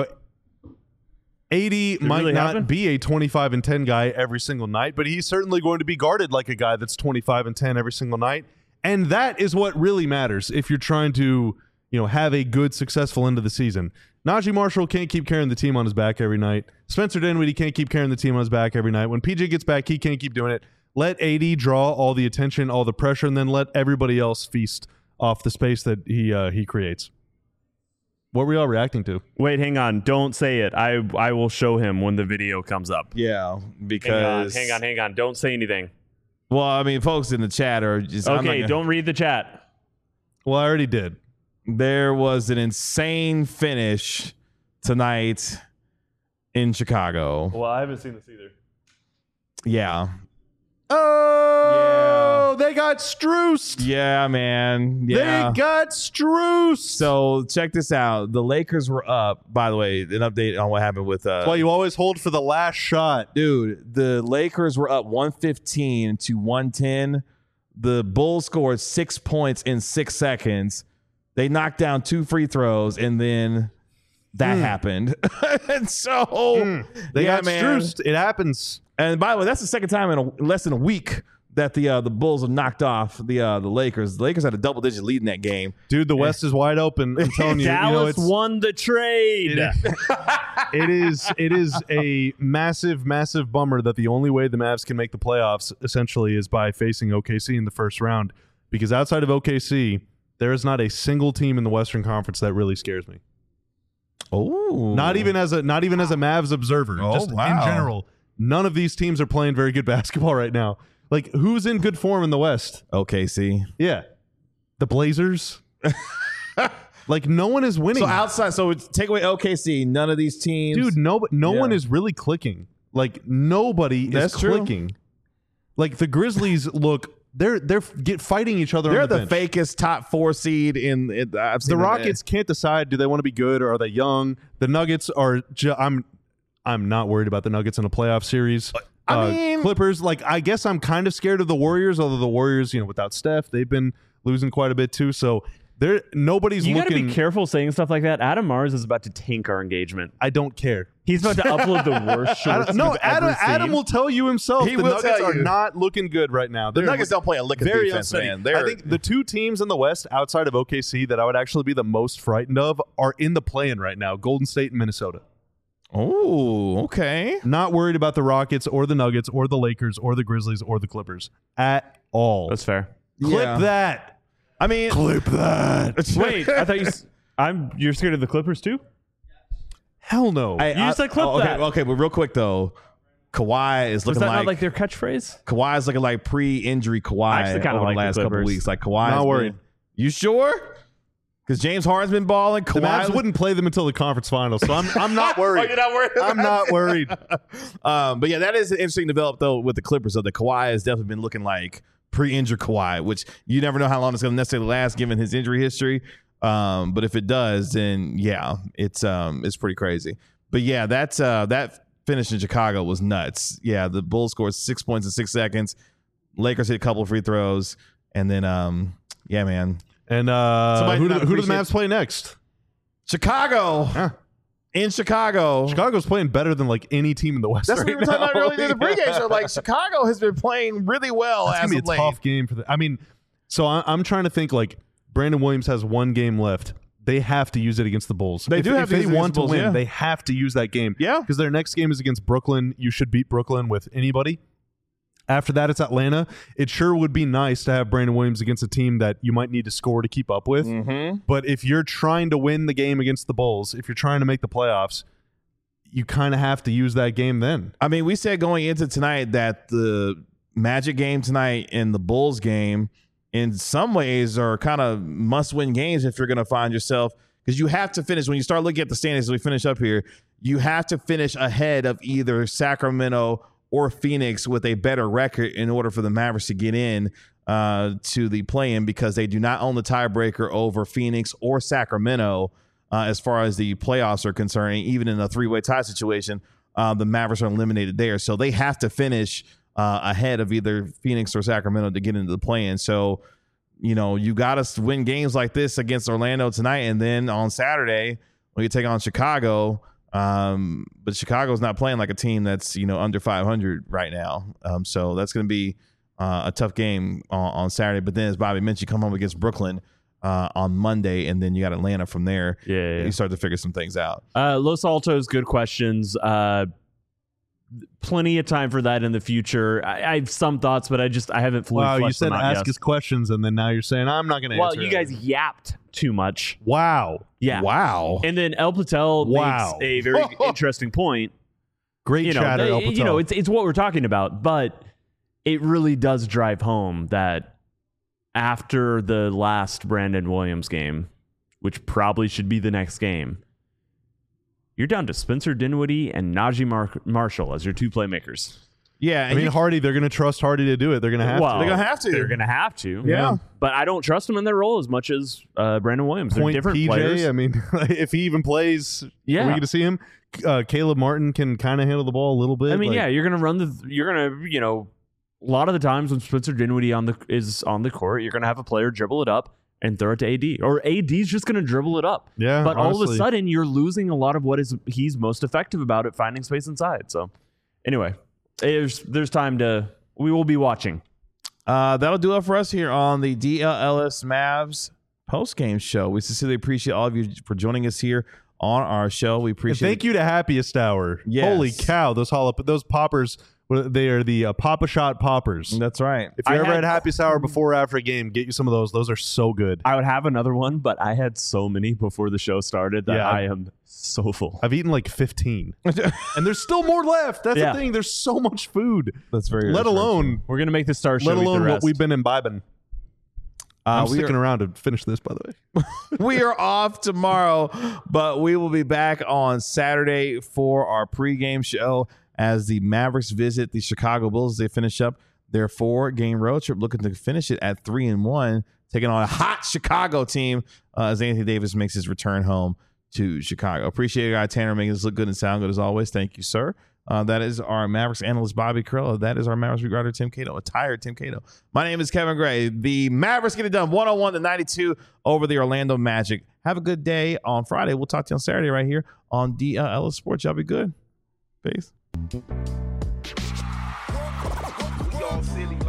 AD might really not happen? be a 25-10 guy every single night, but he's certainly going to be guarded like a guy that's 25-10 every single night. And that is what really matters if you're trying to, have a good, successful end of the season. Najee Marshall can't keep carrying the team on his back every night. Spencer Dinwiddie can't keep carrying the team on his back every night. When PJ gets back, he can't keep doing it. Let AD draw all the attention, all the pressure, and then let everybody else feast off the space that he creates. What were y'all reacting to? Wait, hang on. Don't say it. I will show him when the video comes up. Yeah, because... Hang on. Don't say anything. Well, folks in the chat are just... Okay, don't read the chat. Well, I already did. There was an insane finish tonight in Chicago. Well, I haven't seen this either. Yeah. Oh, they got Strused. Yeah, man. Yeah. They got Strused. So check this out. The Lakers were up, by the way, an update on what happened with... well, you always hold for the last shot. Dude, the Lakers were up 115 to 110. The Bulls scored 6 points in 6 seconds. They knocked down 2 free throws, and then that happened. And so... They got Strused. It happens. And by the way, that's the second time in less than a week that the Bulls have knocked off the Lakers. The Lakers had a double-digit lead in that game. Dude, the West is wide open. I'm telling you. Dallas won the trade. It is a massive, massive bummer that the only way the Mavs can make the playoffs essentially is by facing OKC in the first round. Because outside of OKC, there is not a single team in the Western Conference that really scares me. Oh, not even as a Mavs observer. Oh, just wow. in general, none of these teams are playing very good basketball right now. Like, who's in good form in the West? OKC. Yeah, the Blazers. Like, no one is winning. So outside, so take away OKC. None of these teams, dude. No one is really clicking. Like, nobody is clicking. Like, the Grizzlies look they're fighting each other. They're on the the bench. fakest top 4 seed in. I've seen The them. Rockets can't decide, do they want to be good or are they young? The Nuggets are I'm not worried about the Nuggets in a playoff series. I mean, Clippers, like, I guess I'm kind of scared of the Warriors, although the Warriors, without Steph, they've been losing quite a bit too. So nobody's You got to looking. be careful saying stuff like that. Adam Mars is about to tank our engagement. I don't care. He's about to upload the worst shorts. No, Adam Adam will tell you himself. He The will Nuggets tell are you. not looking good right now. the They're Nuggets don't play a lick of very defense, unsteady. man. I think the two teams in the West outside of OKC that I would actually be the most frightened of are in the play-in right now: Golden State and Minnesota. Oh, okay. Not worried about the Rockets or the Nuggets or the Lakers or the Grizzlies or the Clippers at all. That's fair. Clip Yeah. that. I mean, Clip that. Wait, I thought you're scared of the Clippers too? Hell no. You just said clip okay, that. Okay, but real quick though, Kawhi is Was looking that not like their catchphrase? Kawhi is looking like pre-injury Kawhi I actually kinda over like the the last couple Clippers. weeks. Like Kawhi, Not worried. You sure? Because James Harden's been balling. the Mavs wouldn't play them until the conference finals, so I'm not worried. you're not worried? I'm not worried. But yeah, that is an interesting develop though with the Clippers. So the Kawhi has definitely been looking like pre-injured Kawhi, which you never know how long it's going to necessarily last given his injury history. But if it does, then yeah, it's pretty crazy. But yeah, that finish in Chicago was nuts. Yeah, the Bulls scored 6 points in 6 seconds. Lakers hit a couple of free throws, and then yeah, man, And Somebody who not do the appreciate- Mavs play next? Chicago in Chicago. Chicago's playing better than like any team in the West. That's what we right were talking now. about earlier in the pregame show. Like Chicago has been playing really well That's as gonna of be a late. tough game for the. I mean, so I'm trying to think. Like Brandon Williams has one game left. They have to use it against the Bulls. They if, do have if to they use it want against to the Bulls, win. yeah. They have to use that game. Yeah. because their next game is against Brooklyn. You should beat Brooklyn with anybody. After that, it's Atlanta. It sure would be nice to have Brandon Williams against a team that you might need to score to keep up with. Mm-hmm. But if you're trying to win the game against the Bulls, if you're trying to make the playoffs, you kind of have to use that game then. I mean, we said going into tonight that the Magic game tonight and the Bulls game in some ways are kind of must-win games if you're going to find yourself, because you have to finish. When you start looking at the standings as we finish up here, you have to finish ahead of either Sacramento or Phoenix with a better record in order for the Mavericks to get in to the play-in, because they do not own the tiebreaker over Phoenix or Sacramento as far as the playoffs are concerned. Even in a three-way tie situation, the Mavericks are eliminated there. So they have to finish ahead of either Phoenix or Sacramento to get into the play-in. So, you got to win games like this against Orlando tonight, and then on Saturday when you take on Chicago. But Chicago's not playing like a team that's under 500 right now. So that's going to be a tough game on Saturday. But then, as Bobby mentioned, you come home against Brooklyn on Monday, and then you got Atlanta from there. Yeah. You start to figure some things out. Los Altos, good questions. Plenty of time for that in the future. I have some thoughts, but I haven't fully Wow, you fleshed said them out ask yet. us questions, and then now you're saying I'm not going to Well, answer. you it. guys yapped too much. Wow, Yeah. Wow. And then El Patel Wow. makes a very interesting point. great chatter, El Patel. It's what we're talking about, but it really does drive home that after the last Brandon Williams game, which probably should be the next game, you're down to Spencer Dinwiddie and Najee Marshall as your two playmakers. Yeah. I mean, Hardy. They're going to trust Hardy to do it. They're going to have Well, to. They're gonna have to. They're going to have to. Yeah. But I don't trust them in their role as much as Brandon Williams. They're Point different PJ. players. I mean, if he even plays, Yeah. are we going to see him? Caleb Martin can kind of handle the ball a little bit. I mean, yeah, you're gonna run a lot of the times when Spencer Dinwiddie is on the court, you're gonna have a player dribble it up and throw it to AD, or AD's just gonna dribble it up. Yeah, but all of a honestly. sudden you're losing a lot of what he's most effective about at finding space inside. So anyway, there's time to. We will be watching. That'll do it for us here on the DLLS Mavs post-game show. We sincerely appreciate all of you for joining us here on our show. We And appreciate thank you to Happiest Hour. Yes. Holy cow, those poppers. They are the Papa Shot poppers. That's right. If you I ever had- had Happiest Hour before or after a game, get you some of those. Those are so good. I would have another one, but I had so many before the show started that Yeah. I am so full. I've eaten like 15, and there's still more left. That's Yeah. the thing. There's so much food. That's very. Let alone, We're gonna make the star show. let eat the alone what rest. we've been imbibing. I'm we sticking are, around to finish this, by the way. we are off tomorrow, but we will be back on Saturday for our pregame show as the Mavericks visit the Chicago Bulls as they finish up their 4-game road trip, looking to finish it at 3-1, taking on a hot Chicago team as Anthony Davis makes his return home to Chicago. Appreciate it, guy Tanner, making us look good and sound good as always. Thank you, sir. That is our Mavericks analyst, Bobby Carrillo. That is our Mavericks beat writer, Tim Cato, a tired Tim Cato. My name is Kevin Gray. The Mavericks get it done 101-92 over the Orlando Magic. Have a good day on Friday. We'll talk to you on Saturday right here on DLS Sports. Y'all be good. Peace.